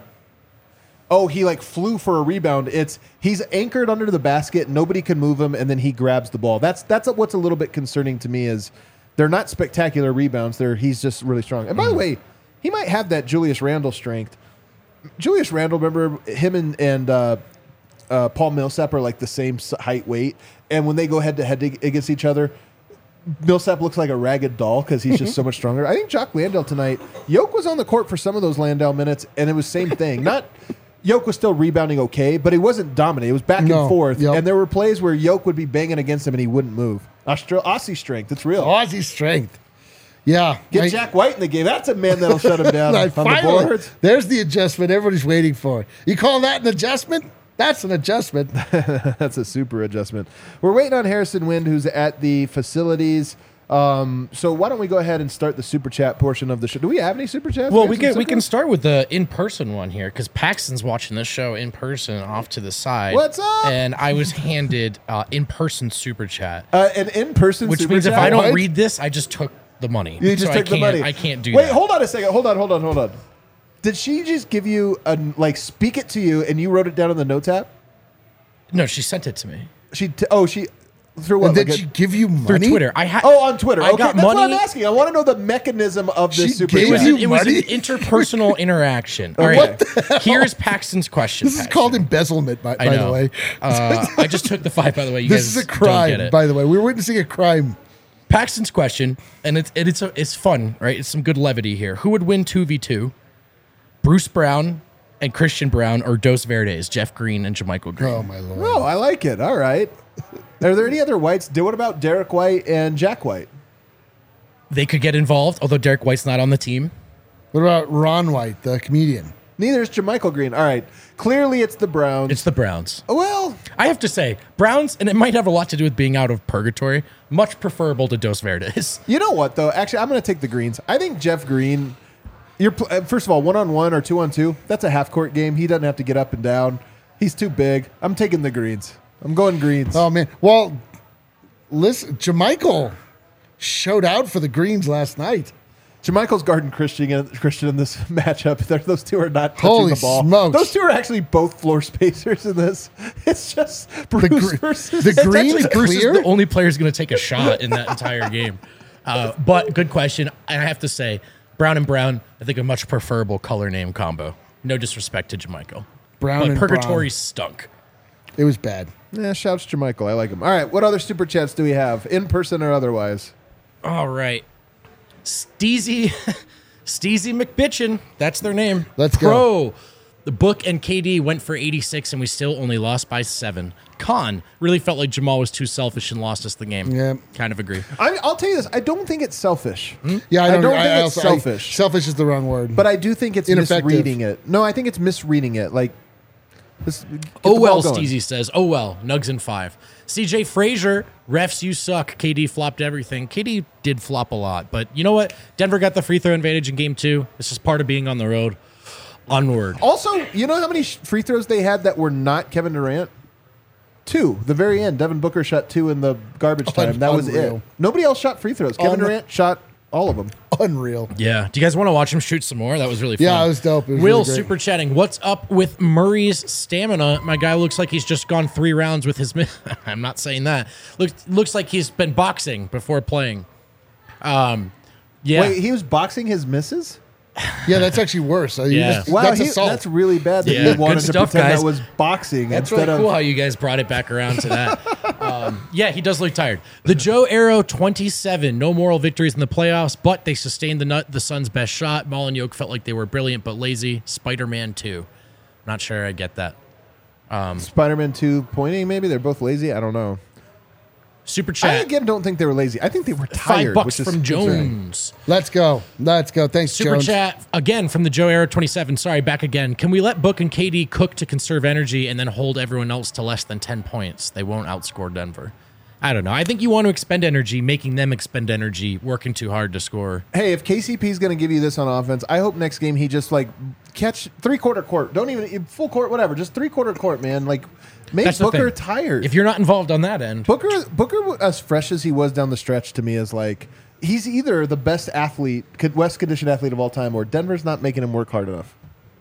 oh, he like flew for a rebound. It's he's anchored under the basket. Nobody can move him. And then he grabs the ball. That's that's what's a little bit concerning to me is they're not spectacular rebounds. They're, he's just really strong. And by the way, he might have that Julius Randle strength. Julius Randle, remember him and, and uh, uh, Paul Millsap are like the same s- height, weight. And when they go head to head against each other, Millsap looks like a ragged doll because he's just so much stronger. I think Jock Landale tonight, Yoke was on the court for some of those Landale minutes, and it was same thing. Not Yoke was still rebounding okay, but he wasn't dominant. It was back No, and forth. yep. And there were plays where Yoke would be banging against him and he wouldn't move. Austra- Aussie strength, it's real. Aussie strength. Yeah. Get I- Jack White in the game. That's a man that'll shut him down Like, on the finally, boards. there's the adjustment everybody's waiting for. You call that an adjustment? That's an adjustment. That's a super adjustment. We're waiting on Harrison Wind, who's at the facilities. Um, so why don't we go ahead and start the super chat portion of the show? Do we have any super chats? Well, have we some can we super- can start with the in person one here because Paxton's watching this show in person off to the side. What's up? And I was handed uh, in person super chat, uh, an in-person which super means if chat? I don't What? read this, I just took the money. You just So took I the can't, money. I can't do Wait, that. hold on a second. Hold on, hold on, hold on. Did she just give you a like speak it to you and you wrote it down on the notes app? No, she sent it to me She t- oh she through what? And did like a- she give you through money? Twitter. I had oh, on Twitter. I Okay, got that's money. what I'm asking. I want to know the mechanism of this She super gave It was, chat. you an, it was an money? interpersonal interaction. All What right, here's Paxton's question. This is Paxton. called embezzlement, by, I by know. the way. Uh, I just took the five. By the way, you This guys is a don't get crime, it. by the way. We're witnessing a crime. Paxton's question, and it's and it's a, it's fun, right? It's some good levity here. Who would win two v two? Bruce Brown and Christian Brown, or Dos Verdes, Jeff Green and Jermichael Green? Oh, my Lord. Oh, I like it. All right. Are there any other whites? Do what about Derek White and Jack White? They could get involved, although Derek White's not on the team. What about Ron White, the comedian? Neither is Jermichael Green. All right. Clearly, it's the Browns. It's the Browns. well, I have to say, Browns, and it might have a lot to do with being out of purgatory, much preferable to Dos Verdes. you know what though? Actually, I'm going to take the Greens. I think Jeff Green. You're pl- uh, first of all one on one or two on two. That's a half court game. He doesn't have to get up and down. He's too big. I'm taking the Greens. I'm going Greens. Oh, man. Well, listen, Jermichael showed out for the Greens last night. Jermichael's guarding Christian in, Christian in this matchup. They're, those two are not touching Holy the ball. smokes. Those two are actually both floor spacers in this. It's just Bruce gr- versus the It's Greens actually Bruce is clear? the only player who's going to take a shot in that entire game. Uh, but good question. And I have to say, Brown and Brown, I think a much preferable color name combo. No disrespect to Jermichael. Brown but and Purgatory Brown. stunk. It was bad. Yeah, shouts Jermichael. I like him. All right, what other super chats do we have, in person or otherwise? All right. Steezy, Steezy McBitchin. That's their name. Let's Pro. The Book and K D went for eighty-six, and we still only lost by seven. Con really felt like Jamal was too selfish and lost us the game. Yeah. Kind of agree. I, I'll tell you this. I don't think it's selfish. Yeah, I I don't, don't I, think I it's also- I- selfish. selfish is the wrong word. But I do think it's Ineffective. misreading it. No, I think it's misreading it. Like, this, get Oh the well, ball going. Steezy says. Oh well, Nugs in five. C J Frazier, refs, you suck. K D flopped everything. K D did flop a lot, but you know what? Denver got the free throw advantage in game two. This is part of being on the road. Onward. Also, you know how many sh- free throws they had that were not Kevin Durant? Two. The very end. Devin Booker shot two in the garbage time. That was Unreal. it. Nobody else shot free throws. Kevin Un- Durant shot all of them. Unreal. Yeah. Do you guys want to watch him shoot some more? That was really fun. Yeah, it was dope. It was Will really great. super chatting. What's up with Murray's stamina? My guy looks like he's just gone three rounds with his. Mi- I'm not saying that. Looks looks like he's been boxing before playing. Um, yeah. Wait, he was boxing his misses? Yeah, that's actually worse. I mean, Yeah. that's, Wow, that's he- assault. that's really bad that Yeah, you wanted good to stuff, pretend guys. that was boxing That's instead really cool of. how you guys brought it back around to that. um, yeah, he does look tired. The Joe Arrow twenty-seven, no moral victories in the playoffs, but they sustained the nut, the Suns' best shot. Maul and Yoke felt like they were brilliant but lazy. Spider-Man two. Not sure I get that. Spider-Man two pointing, maybe? They're both lazy? I don't know. Super I chat. again don't think they were lazy. I think they were Five tired. bucks which is from concerning. Jones. Let's go. Let's go. Thanks, Super Jones. chat again from the Joe Arrow twenty-seven. Sorry, back again. Can we let Book and K D cook to conserve energy and then hold everyone else to less than ten points? They won't outscore Denver. I don't know. I think you want to expend energy, making them expend energy, working too hard to score. Hey, if K C P is going to give you this on offense, I hope next game he just like catch three quarter court. Don't even full court, whatever. Just three quarter court, man. Like make That's the Booker thing. tired. If you're not involved on that end, Booker, Booker, as fresh as he was down the stretch, to me is like he's either the best athlete, West conditioned athlete of all time, or Denver's not making him work hard enough.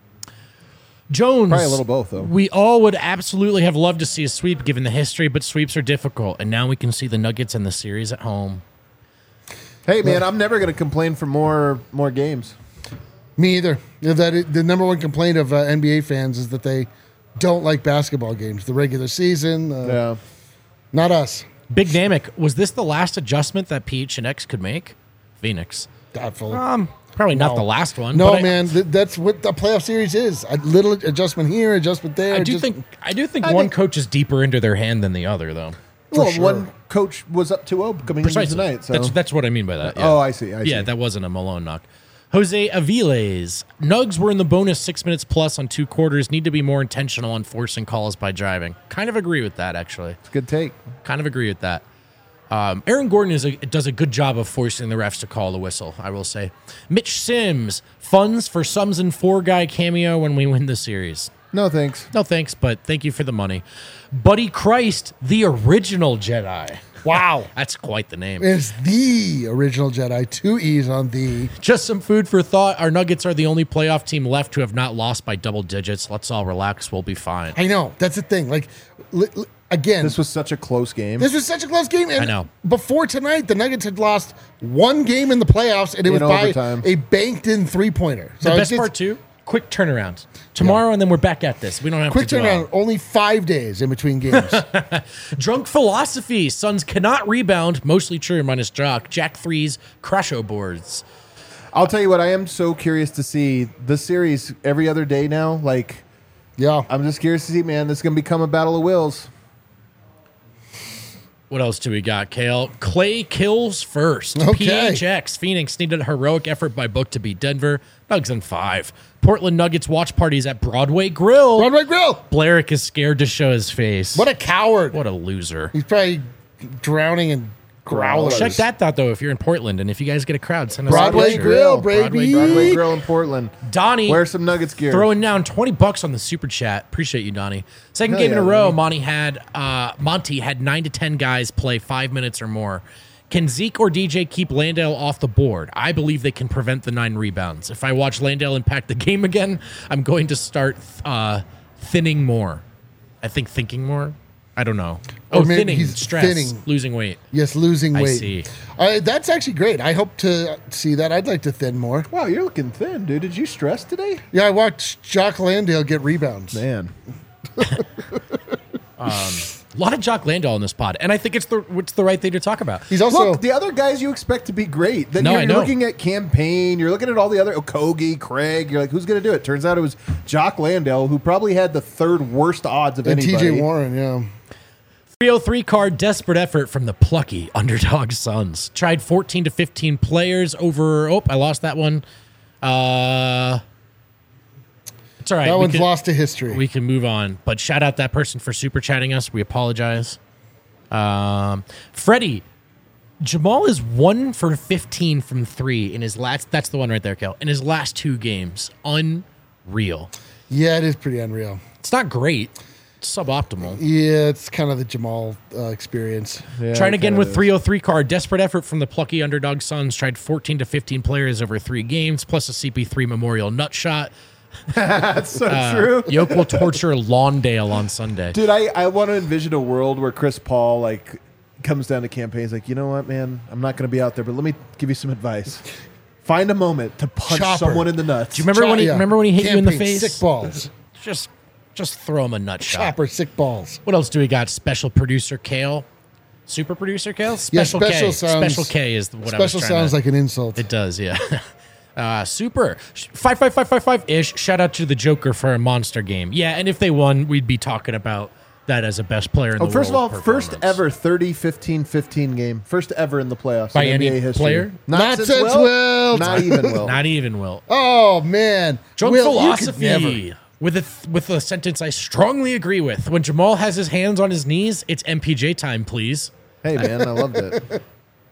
Jones. Probably a little both, though. We all would absolutely have loved to see a sweep given the history, but sweeps are difficult. And now we can see the Nuggets in the series at home. Hey, man, I'm never going to complain for more more games. Me either. Yeah, that it, the number one complaint of uh, N B A fans is that they don't like basketball games, the regular season. Uh, Yeah. Not us. Big Namek, was this the last adjustment that P H and X could make? Phoenix. Doubtful. Um, probably not No. the last one. no, but I- man, th- that's what the playoff series is. A little adjustment here, adjustment there. I do just- think I do think I one think- coach is deeper into their hand than the other, though. Well, sure. one coach was up two oh coming into Precisely. tonight. So That's that's what I mean by that. yeah. Oh, I see. I yeah, see. that wasn't a Malone knock. Jose Aviles. Nugs were in the bonus six minutes plus on two quarters. Need to be more intentional on forcing calls by driving. Kind of agree with that, actually. good take. Kind of agree with that. Um, Aaron Gordon is a, does a good job of forcing the refs to call the whistle, I will say. Mitch Sims. Funds for Sums and Four Guy cameo when we win the series. No thanks. No thanks, but thank you for the money. Buddy Christ, the original Jedi. Wow. That's quite the name. It's the original Jedi. Two E's on the. Just some food for thought. Our Nuggets are the only playoff team left who have not lost by double digits. Let's all relax. We'll be fine. I know. That's the thing. Like, li- li- again, This was such a close game. This was such a close game. And I know. Before tonight, the Nuggets had lost one game in the playoffs, and it In was by overtime. a banked-in three-pointer. The it's best just- part, too, quick turnaround. Tomorrow, and then we're back at this. We don't have Quick to dwell. turnaround. Only five days in between games. Drunk philosophy. Suns cannot rebound. Mostly true, minus Jock. Jack threes, crasho boards. I'll tell you what, I am so curious to see this series every other day now. Like, yeah. I'm just curious to see, man. This is going to become a battle of wills. What else do we got, Kale? Clay kills first. Okay. P H X. Phoenix needed a heroic effort by Book to beat Denver. Nugs in five. Portland Nuggets watch parties at Broadway Grill. Broadway Grill. Blarick is scared to show his face. What a coward. What a loser. He's probably drowning in growlers. Check that out, though, if you're in Portland. And if you guys get a crowd, send us a Broadway picture. Grill, Broadway baby. Grill. Broadway Grill in Portland. Donnie. Wear some Nuggets gear. Throwing down twenty bucks on the super chat. Appreciate you, Donnie. Second Hell game in a yeah, row, Donnie. Monty had uh, Monty had nine to ten guys play five minutes or more. Can Zeke or D J keep Landale off the board? I believe they can prevent the nine rebounds. If I watch Landale impact the game again, I'm going to start uh, thinning more. I think thinking more. I don't know. Or Oh, maybe thinning, he's stress, thinning. losing weight. Yes, losing I weight. see. Uh, that's actually great. I hope to see that. I'd like to thin more. Wow, you're looking thin, dude. Did you stress today? Yeah, I watched Jock Landale get rebounds. Man. A lot of Jock Landale in this pod, and I think it's the it's the right thing to talk about. He's also Look, the other guys you expect to be great. Then No, you're I know. looking at Campaign. You're looking at all the other Okogie, Craig. You're like, who's going to do it? Turns out it was Jock Landale, who probably had the third worst odds of and anybody. T J Warren, yeah. three oh three card desperate effort from the plucky underdog Suns. Tried fourteen to fifteen players over. Oh, I lost that one. Uh, it's all right. That We one's can- lost to history. We can move on. But shout out that person for super chatting us. We apologize. Um, Freddie, Jamal is one for fifteen from three in his last. That's the one right there, Kel. In his last two games, unreal. yeah, it is pretty unreal. It's not great. It's suboptimal. Yeah, it's kind of the Jamal uh, experience. Yeah, Trying it again kinda with is. three oh three card. Desperate effort from the plucky underdog Suns. Tried fourteen to fifteen players over three games, plus a C P three Memorial nut shot. That's so Uh, true. Yoke will torture Lawndale on Sunday. Dude, I, I want to envision a world where Chris Paul like comes down to campaigns like, you know what, man, I'm not going to be out there, but let me give you some advice. Find a moment to punch Chopper. someone in the nuts. Do you remember when he Yeah. remember when he hit you in the Campaign, face? Sick balls. Just just throw him a nut shot. Chopper, sick balls. What else do we got? Special producer Kale, super producer Kale. Special, Yeah, K. special sounds- Special K is what I was Special trying sounds to, like an insult. It does, yeah. Uh, super five five five five five ish. Shout out to the Joker for a monster game. Yeah, and if they won, we'd be talking about that as a best player in Oh, the first of all, world. first performance. ever thirty fifteen fifteen game. First ever in the playoffs By in any N B A history. player? Not since Wilt. Not even Will. Not even Will. Oh man, Drunk Will, you could never. philosophy with a th- with a sentence I strongly agree with. When Jamal has his hands on his knees, it's M P J time, please. Hey, man, I loved it.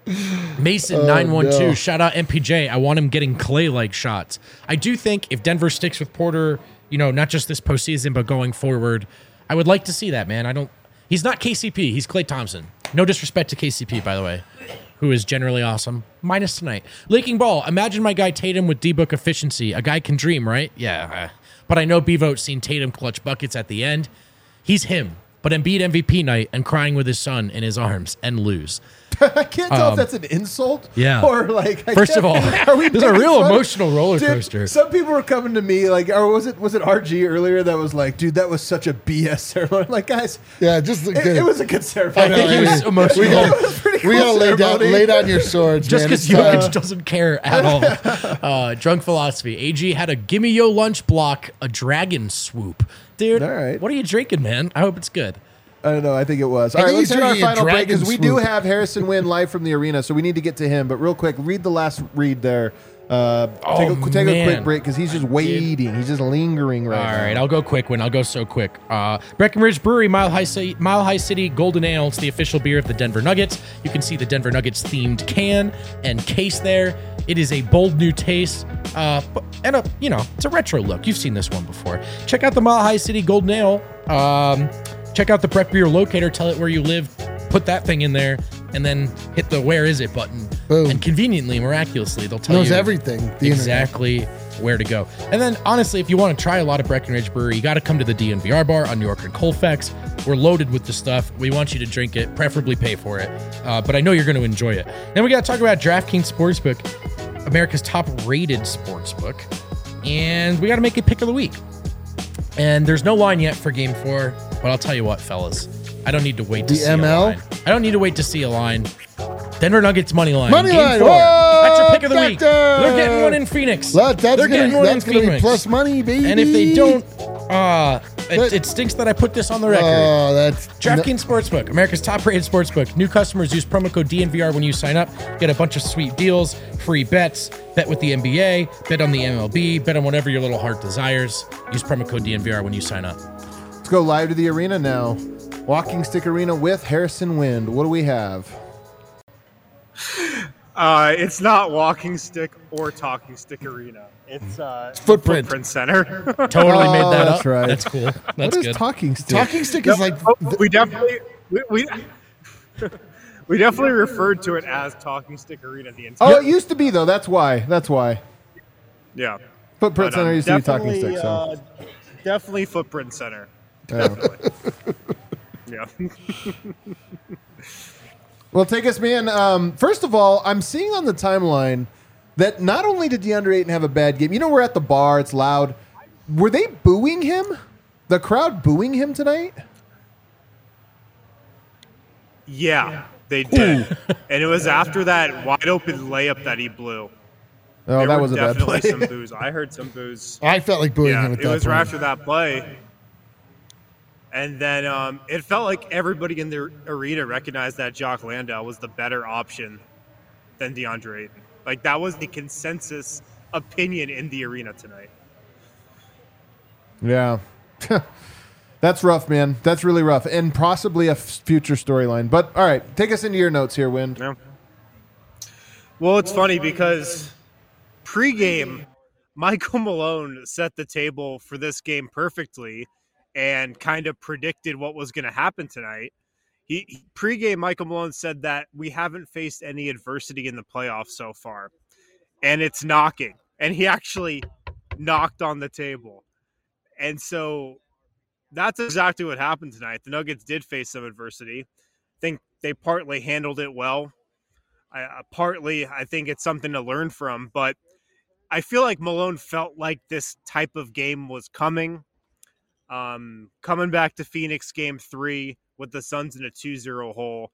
Mason nine one two, no. shout out M P J. I want him getting Clay like shots. I do think if Denver sticks with Porter, you know, not just this postseason but going forward, I would like to see that, man. I don't. He's not K C P. He's Klay Thompson. No disrespect to K C P, by the way, who is generally awesome. Minus tonight. Leaking ball. Imagine my guy Tatum with D-book efficiency. A guy can dream, right? Yeah. uh, But I know B-Vote's seen Tatum clutch buckets at the end. He's him. But Embiid M V P night and crying with his son in his arms and lose. I can't tell if that's an insult. Um, yeah. Or like. I First of all, can't- are we there's a making real fun? emotional roller Dude, coaster. Some people were coming to me like, or was it was it R G earlier that was like, dude, that was such a B S ceremony. I'm like, guys, Yeah, just it, it was a good ceremony. I think he was emotional. We gotta, It was a pretty we cool gotta lay down, ceremony. lay down your swords, Just man. because It's, Jokic uh, doesn't care at all. Uh, drunk philosophy. A G had a gimme yo lunch block, a dragon swoop. Dude, All right. what are you drinking, man? I hope it's good. I don't know. I think it was. I All right, think let's he's hit our drinking a final break because dragon we do swoop. have Harrison Wynn live from the arena, so we need to get to him. But real quick, read the last read there. Uh, Oh, take a, take a man. quick break because he's just waiting. He's just lingering right All now. right, I'll go quick one. I'll go so quick. Uh, Breckenridge Brewery, Mile High, City, Mile High City Golden Ale. It's the official beer of the Denver Nuggets. You can see the Denver Nuggets themed can and case there. It is a bold new taste, uh, but- and a you know it's a retro look. You've seen this one before. Check out the Mile High City Golden Ale. Um, check out the Breck Beer locator. Tell it where you live. Put that thing in there, and then hit the "Where is it" button. Boom. And conveniently, miraculously, they'll tell knows you everything. The internet. exactly where to go. And then, honestly, if you want to try a lot of Breckenridge Brewery, you got to come to the D N V R bar on New York and Colfax. We're loaded with the stuff. We want you to drink it, preferably pay for it. Uh, but I know you're going to enjoy it. Then we got to talk about DraftKings Sportsbook, America's top-rated sportsbook, and we got to make a pick of the week. And there's no line yet for Game Four, but I'll tell you what, fellas, I don't need to wait to The see M L? a line. I don't need to wait to see a line. Denver Nuggets money line. Money Game line. Four. Whoa, That's your pick of the week. doctor. They're getting one in Phoenix. That- that's They're gonna, getting one that's in gonna be Phoenix. plus money, baby. And if they don't, uh, it, That- it stinks that I put this on the record. oh, that's DraftKings Sportsbook, America's top-rated sportsbook. New customers use promo code D N V R when you sign up. Get a bunch of sweet deals, free bets, bet with the N B A, bet on the M L B, bet on whatever your little heart desires. Use promo code D N V R when you sign up. Let's go live to the arena now. Walking Stick Arena with Harrison Wind. What do we have? Uh, it's not Walking Stick or Talking Stick Arena. It's uh, Footprint. Footprint Center. Totally made that that's up. right. That's cool. That's What is good. talking stick? talking stick is like Oh, we definitely we, we we definitely referred to it as Talking Stick Arena the entire. Oh, it used to be though. That's why. That's why. yeah. Footprint But, um, Center used to be talking definitely, stick. So. uh, definitely Footprint Center. Yeah. Definitely. yeah. Well, take us, man. Um, first of all, I'm seeing on the timeline that not only did DeAndre Ayton have a bad game, you know, we're at the bar, it's loud. Were they booing him? The crowd booing him tonight? Yeah, they did. And it was after that wide open layup that he blew. Oh, There that were was a bad play. definitely some boos. I heard some boos. I felt like booing Yeah, him at it that was point. right after that play. And then um, it felt like everybody in the arena recognized that Jock Landale was the better option than DeAndre Ayton. Like, that was the consensus opinion in the arena tonight. Yeah. That's rough, man. That's really rough. And possibly a f- future storyline. But, all right, take us into your notes here, Wind. Yeah. Well, it's funny because pregame, Michael Malone set the table for this game perfectly and kind of predicted what was going to happen tonight. He, he pregame, Michael Malone said that we haven't faced any adversity in the playoffs so far, and it's knocking. And he actually knocked on the table. And so that's exactly what happened tonight. The Nuggets did face some adversity. I think they partly handled it well. I, uh, partly, I think it's something to learn from. But I feel like Malone felt like this type of game was coming. Um, coming back to Phoenix game three with the Suns in a two zero hole,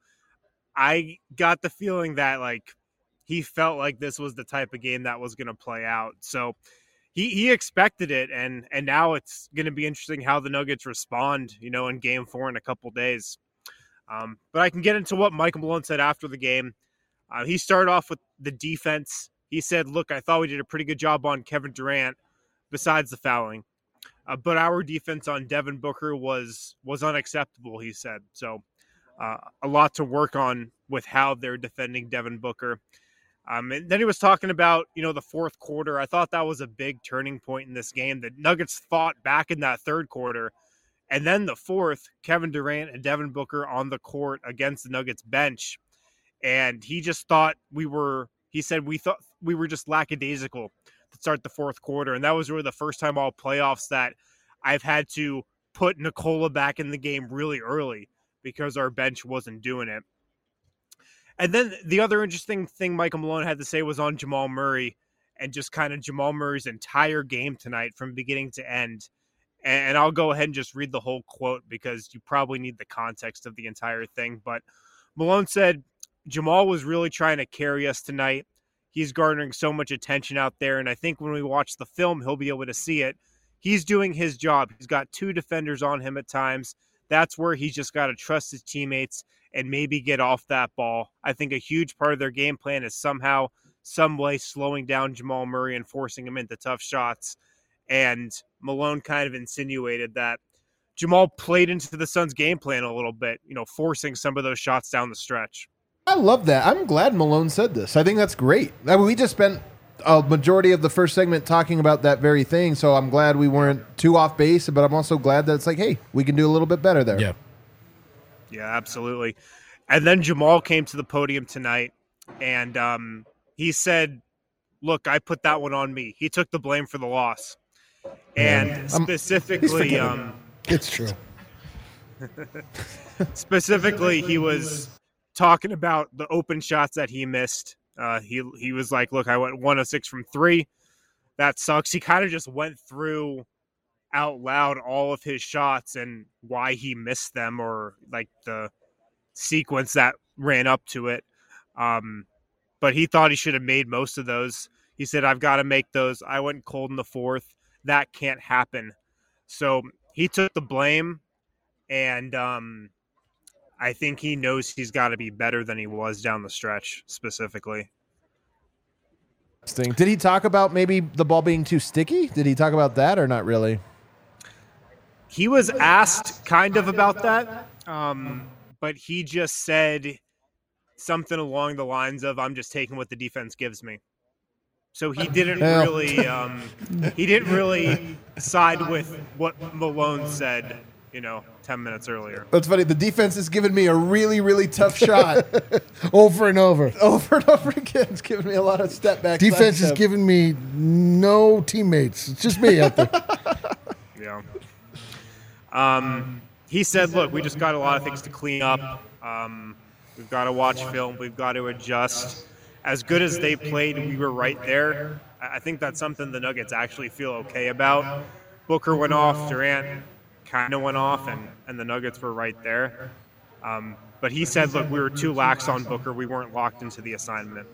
I got the feeling that like he felt like this was the type of game that was going to play out. So he, he expected it, and and now it's going to be interesting how the Nuggets respond, you know, in game four in a couple days. Um, but I can get into what Michael Malone said after the game. Uh, he started off with the defense. He said, look, I thought we did a pretty good job on Kevin Durant besides the fouling. Uh, but our defense on Devin Booker was was unacceptable, he said. So uh, a lot to work on with how they're defending Devin Booker. Um, and then he was talking about, you know, the fourth quarter. I thought that was a big turning point in this game. The Nuggets fought back in that third quarter. And then the fourth, Kevin Durant and Devin Booker on the court against the Nuggets bench. And he just thought we were, he said, we thought we were just lackadaisical to start the fourth quarter. And that was really the first time all playoffs that I've had to put Nikola back in the game really early because our bench wasn't doing it. And then the other interesting thing Michael Malone had to say was on Jamal Murray and just kind of Jamal Murray's entire game tonight from beginning to end. And I'll go ahead and just read the whole quote because you probably need the context of the entire thing. But Malone said, Jamal was really trying to carry us tonight. He's garnering so much attention out there. And I think when we watch the film, he'll be able to see it. He's doing his job. He's got two defenders on him at times. That's where he's just got to trust his teammates and maybe get off that ball. I think a huge part of their game plan is somehow, some way slowing down Jamal Murray and forcing him into tough shots. And Malone kind of insinuated that Jamal played into the Suns' game plan a little bit, you know, forcing some of those shots down the stretch. I love that. I'm glad Malone said this. I think that's great. I mean, we just spent a majority of the first segment talking about that very thing, so I'm glad we weren't too off base, but I'm also glad that it's like, hey, we can do a little bit better there. Yeah. Yeah, absolutely. And then Jamal came to the podium tonight, and um, he said, look, I put that one on me. He took the blame for the loss. And specifically, um, it's true. specifically, he was talking about the open shots that he missed. Uh, he he was like, look, I went one of six from three. That sucks. He kind of just went through out loud all of his shots and why he missed them, or like the sequence that ran up to it. Um, but he thought he should have made most of those. He said, I've got to make those. I went cold in the fourth. That can't happen. So he took the blame, and um, I think he knows he's got to be better than he was down the stretch specifically. Did he talk about maybe the ball being too sticky? Did he talk about that or not really? He was asked kind of about that, um, but he just said something along the lines of, I'm just taking what the defense gives me. So he didn't Well. really um, he didn't really side with what Malone said, you know, ten minutes earlier. That's funny. The defense has given me a really, really tough shot Over and over. over and over again. It's given me a lot of step back. Defense side has step. given me no teammates. It's just me out there. Yeah. Um, he said, look, we just got a lot of things to clean up. Um, we've got to watch film. We've got to adjust. As good as they played, we were right there. I I think that's something the Nuggets actually feel okay about. Booker went off, Durant kind of went off, and, and the Nuggets were right there. Um, But he said, look, we were too lax on Booker. We weren't locked into the assignment.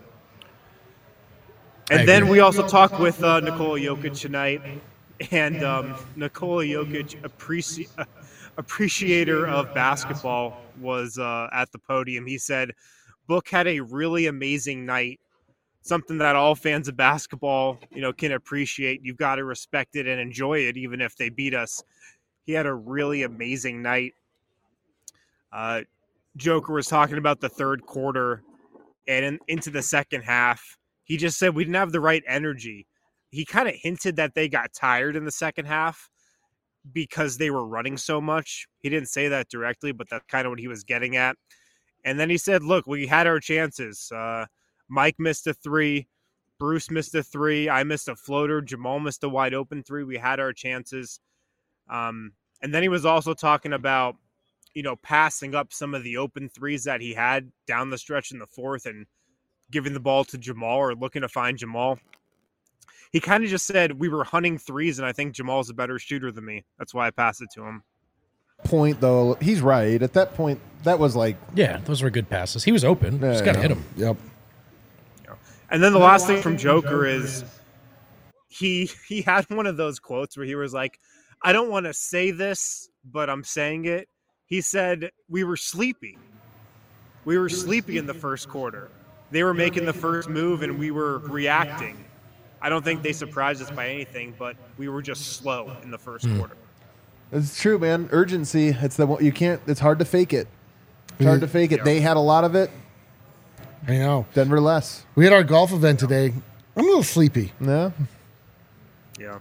And then we also talked with uh, Nikola Jokic tonight. And um, Nikola Jokic, appreci- uh, appreciator of basketball, was uh, at the podium. He said, Book had a really amazing night, something that all fans of basketball, you know, can appreciate. You've got to respect it and enjoy it, even if they beat us. He had a really amazing night. Uh, Joker was talking about the third quarter and in, into the second half. He just said we didn't have the right energy. He kind of hinted that they got tired in the second half because they were running so much. He didn't say that directly, but that's kind of what he was getting at. And then he said, look, we had our chances. Uh, Mike missed a three. Bruce missed a three. I missed a floater. Jamal missed a wide open three. We had our chances. Um, and then he was also talking about, you know, passing up some of the open threes that he had down the stretch in the fourth and giving the ball to Jamal or looking to find Jamal. He kind of just said we were hunting threes, and I think Jamal's a better shooter than me. That's why I passed it to him. Point, though, he's right. At that point, that was like... Yeah, those were good passes. He was open. Yeah, Just got to yeah. hit him. Yep. And then the last thing from Joker is he he had one of those quotes where he was like, I don't want to say this, but I'm saying it. He said, we were sleepy. We were sleepy in the first quarter. They were making the first move, and we were reacting. I don't think they surprised us by anything, but we were just slow in the first Mm. quarter. It's true, man. Urgency. It's the one you can't. It's hard to fake it. It's hard to fake it. Yeah. They had a lot of it. I know. Denver less. We had our golf event today. I'm a little sleepy. No. Yeah.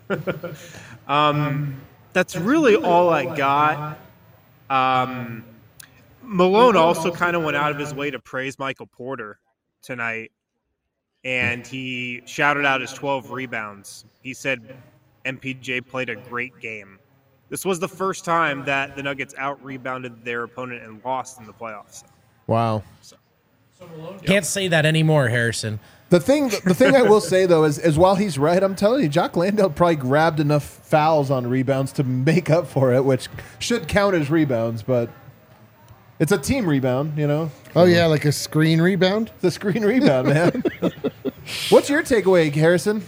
um, that's really all I got. Um, Malone also kind of went out of his way to praise Michael Porter tonight, and he shouted out his twelve rebounds. He said M P J played a great game. This was the first time that the Nuggets out-rebounded their opponent and lost in the playoffs. Wow. Can't say that anymore, Harrison. The thing, the thing I will say though is, is while he's right, I'm telling you, Jock Landale probably grabbed enough fouls on rebounds to make up for it, which should count as rebounds, but it's a team rebound, you know. Oh, yeah, like a screen rebound? It's a screen rebound, man. What's your takeaway, Harrison?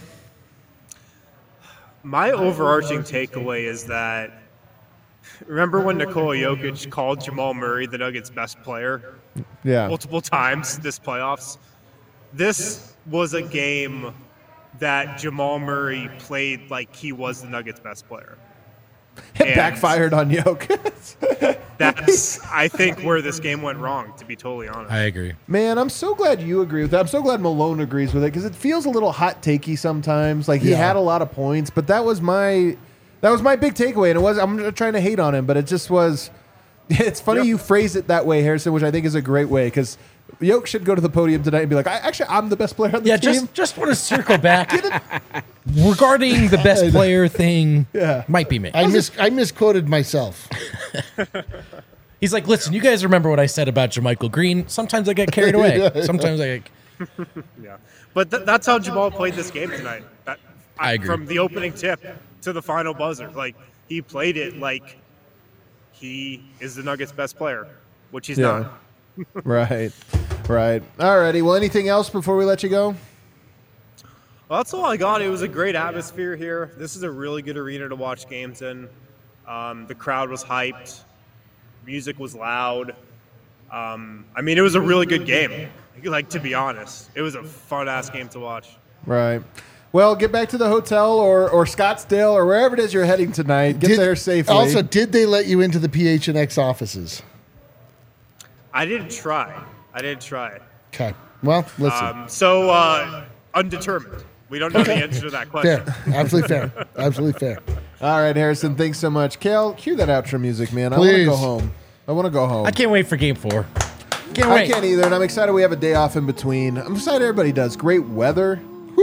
My overarching takeaway is that, remember when Nikola Jokic called Jamal Murray the Nuggets' best player Yeah. multiple times this playoffs? This was a game that Jamal Murray played like he was the Nuggets' best player. It And backfired on Jokic. That's, I think, where this game went wrong, to be totally honest. I agree. Man, I'm so glad you agree with that. I'm so glad Malone agrees with it because it feels a little hot takey sometimes. Like he Yeah. had a lot of points, but that was my that was my big takeaway. And it was I'm not trying to hate on him, but it just was. It's funny Yep. you phrase it that way, Harrison, which I think is a great way because Yoke should go to the podium tonight and be like, I, actually, I'm the best player on the Yeah, team. just just want to circle back regarding the best player thing. Yeah. Might be me. I mis- I misquoted myself. He's like, listen, you guys remember what I said about JaMychal Green? Sometimes I get carried away. Sometimes I get. Yeah, but th- that's how Jamal played this game tonight. That, I agree. From the opening tip to the final buzzer, like he played it like he is the Nuggets' best player, which he's Yeah. not. Right, right. Alrighty. Well, anything else before we let you go? Well, that's all I got. It was a great atmosphere here. This is a really good arena to watch games in. Um, the crowd was hyped. Music was loud. Um, I mean, it was a really good game. Like, to be honest, it was a fun-ass game to watch. Right. Well, get back to the hotel or, or Scottsdale or wherever it is you're heading tonight. Get Did- there safely. Also, did they let you into the P H N X offices? I didn't try. I didn't try. Okay. Well, listen. Um, so, uh, undetermined. We don't know the answer to that question. Fair. Absolutely fair. Absolutely fair. All right, Harrison, thanks so much. Kale, cue that outro music, man. I want to Please. go home. I want to go home. I can't wait for game four. Can't I wait. can't either, and I'm excited we have a day off in between. I'm excited everybody does. Great weather.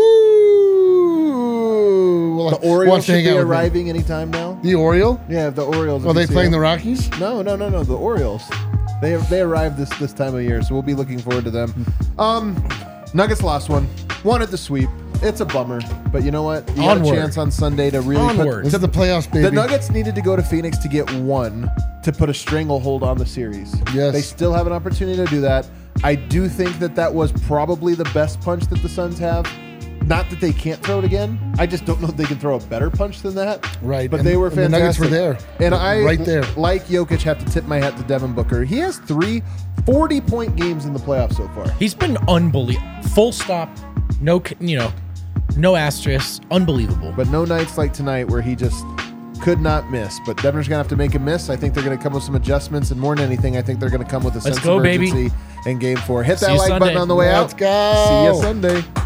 Woo! Well, The Orioles wants to should hang be out with me. arriving anytime now. The Oriole? Yeah, the Orioles. Are if they you see playing them. the Rockies? No, no, no, no. The Orioles. They they arrived this this time of year, so we'll be looking forward to them. Um, Nuggets lost one. Wanted the sweep. It's a bummer, but you know what? You had a Onward. chance on Sunday to really Onward. put. This is the playoffs, baby. The Nuggets needed to go to Phoenix to get one. to put a stranglehold on the series. Yes. They still have an opportunity to do that. I do think that that was probably the best punch that the Suns have. Not that they can't throw it again. I just don't know if they can throw a better punch than that. Right. But and, they were and fantastic. The Nuggets were there. And I, right there. like Jokic, have to tip my hat to Devin Booker. He has three forty-point games in the playoffs so far. He's been unbelievable. Full stop. No, c- you know, no asterisk. Unbelievable. But no nights like tonight where he just could not miss. But Denver's going to have to make a miss. I think they're going to come with some adjustments. And more than anything, I think they're going to come with a Let's sense go, of baby. urgency in game four. Hit See that you like Sunday. button on the way Let's out. go. See you Sunday.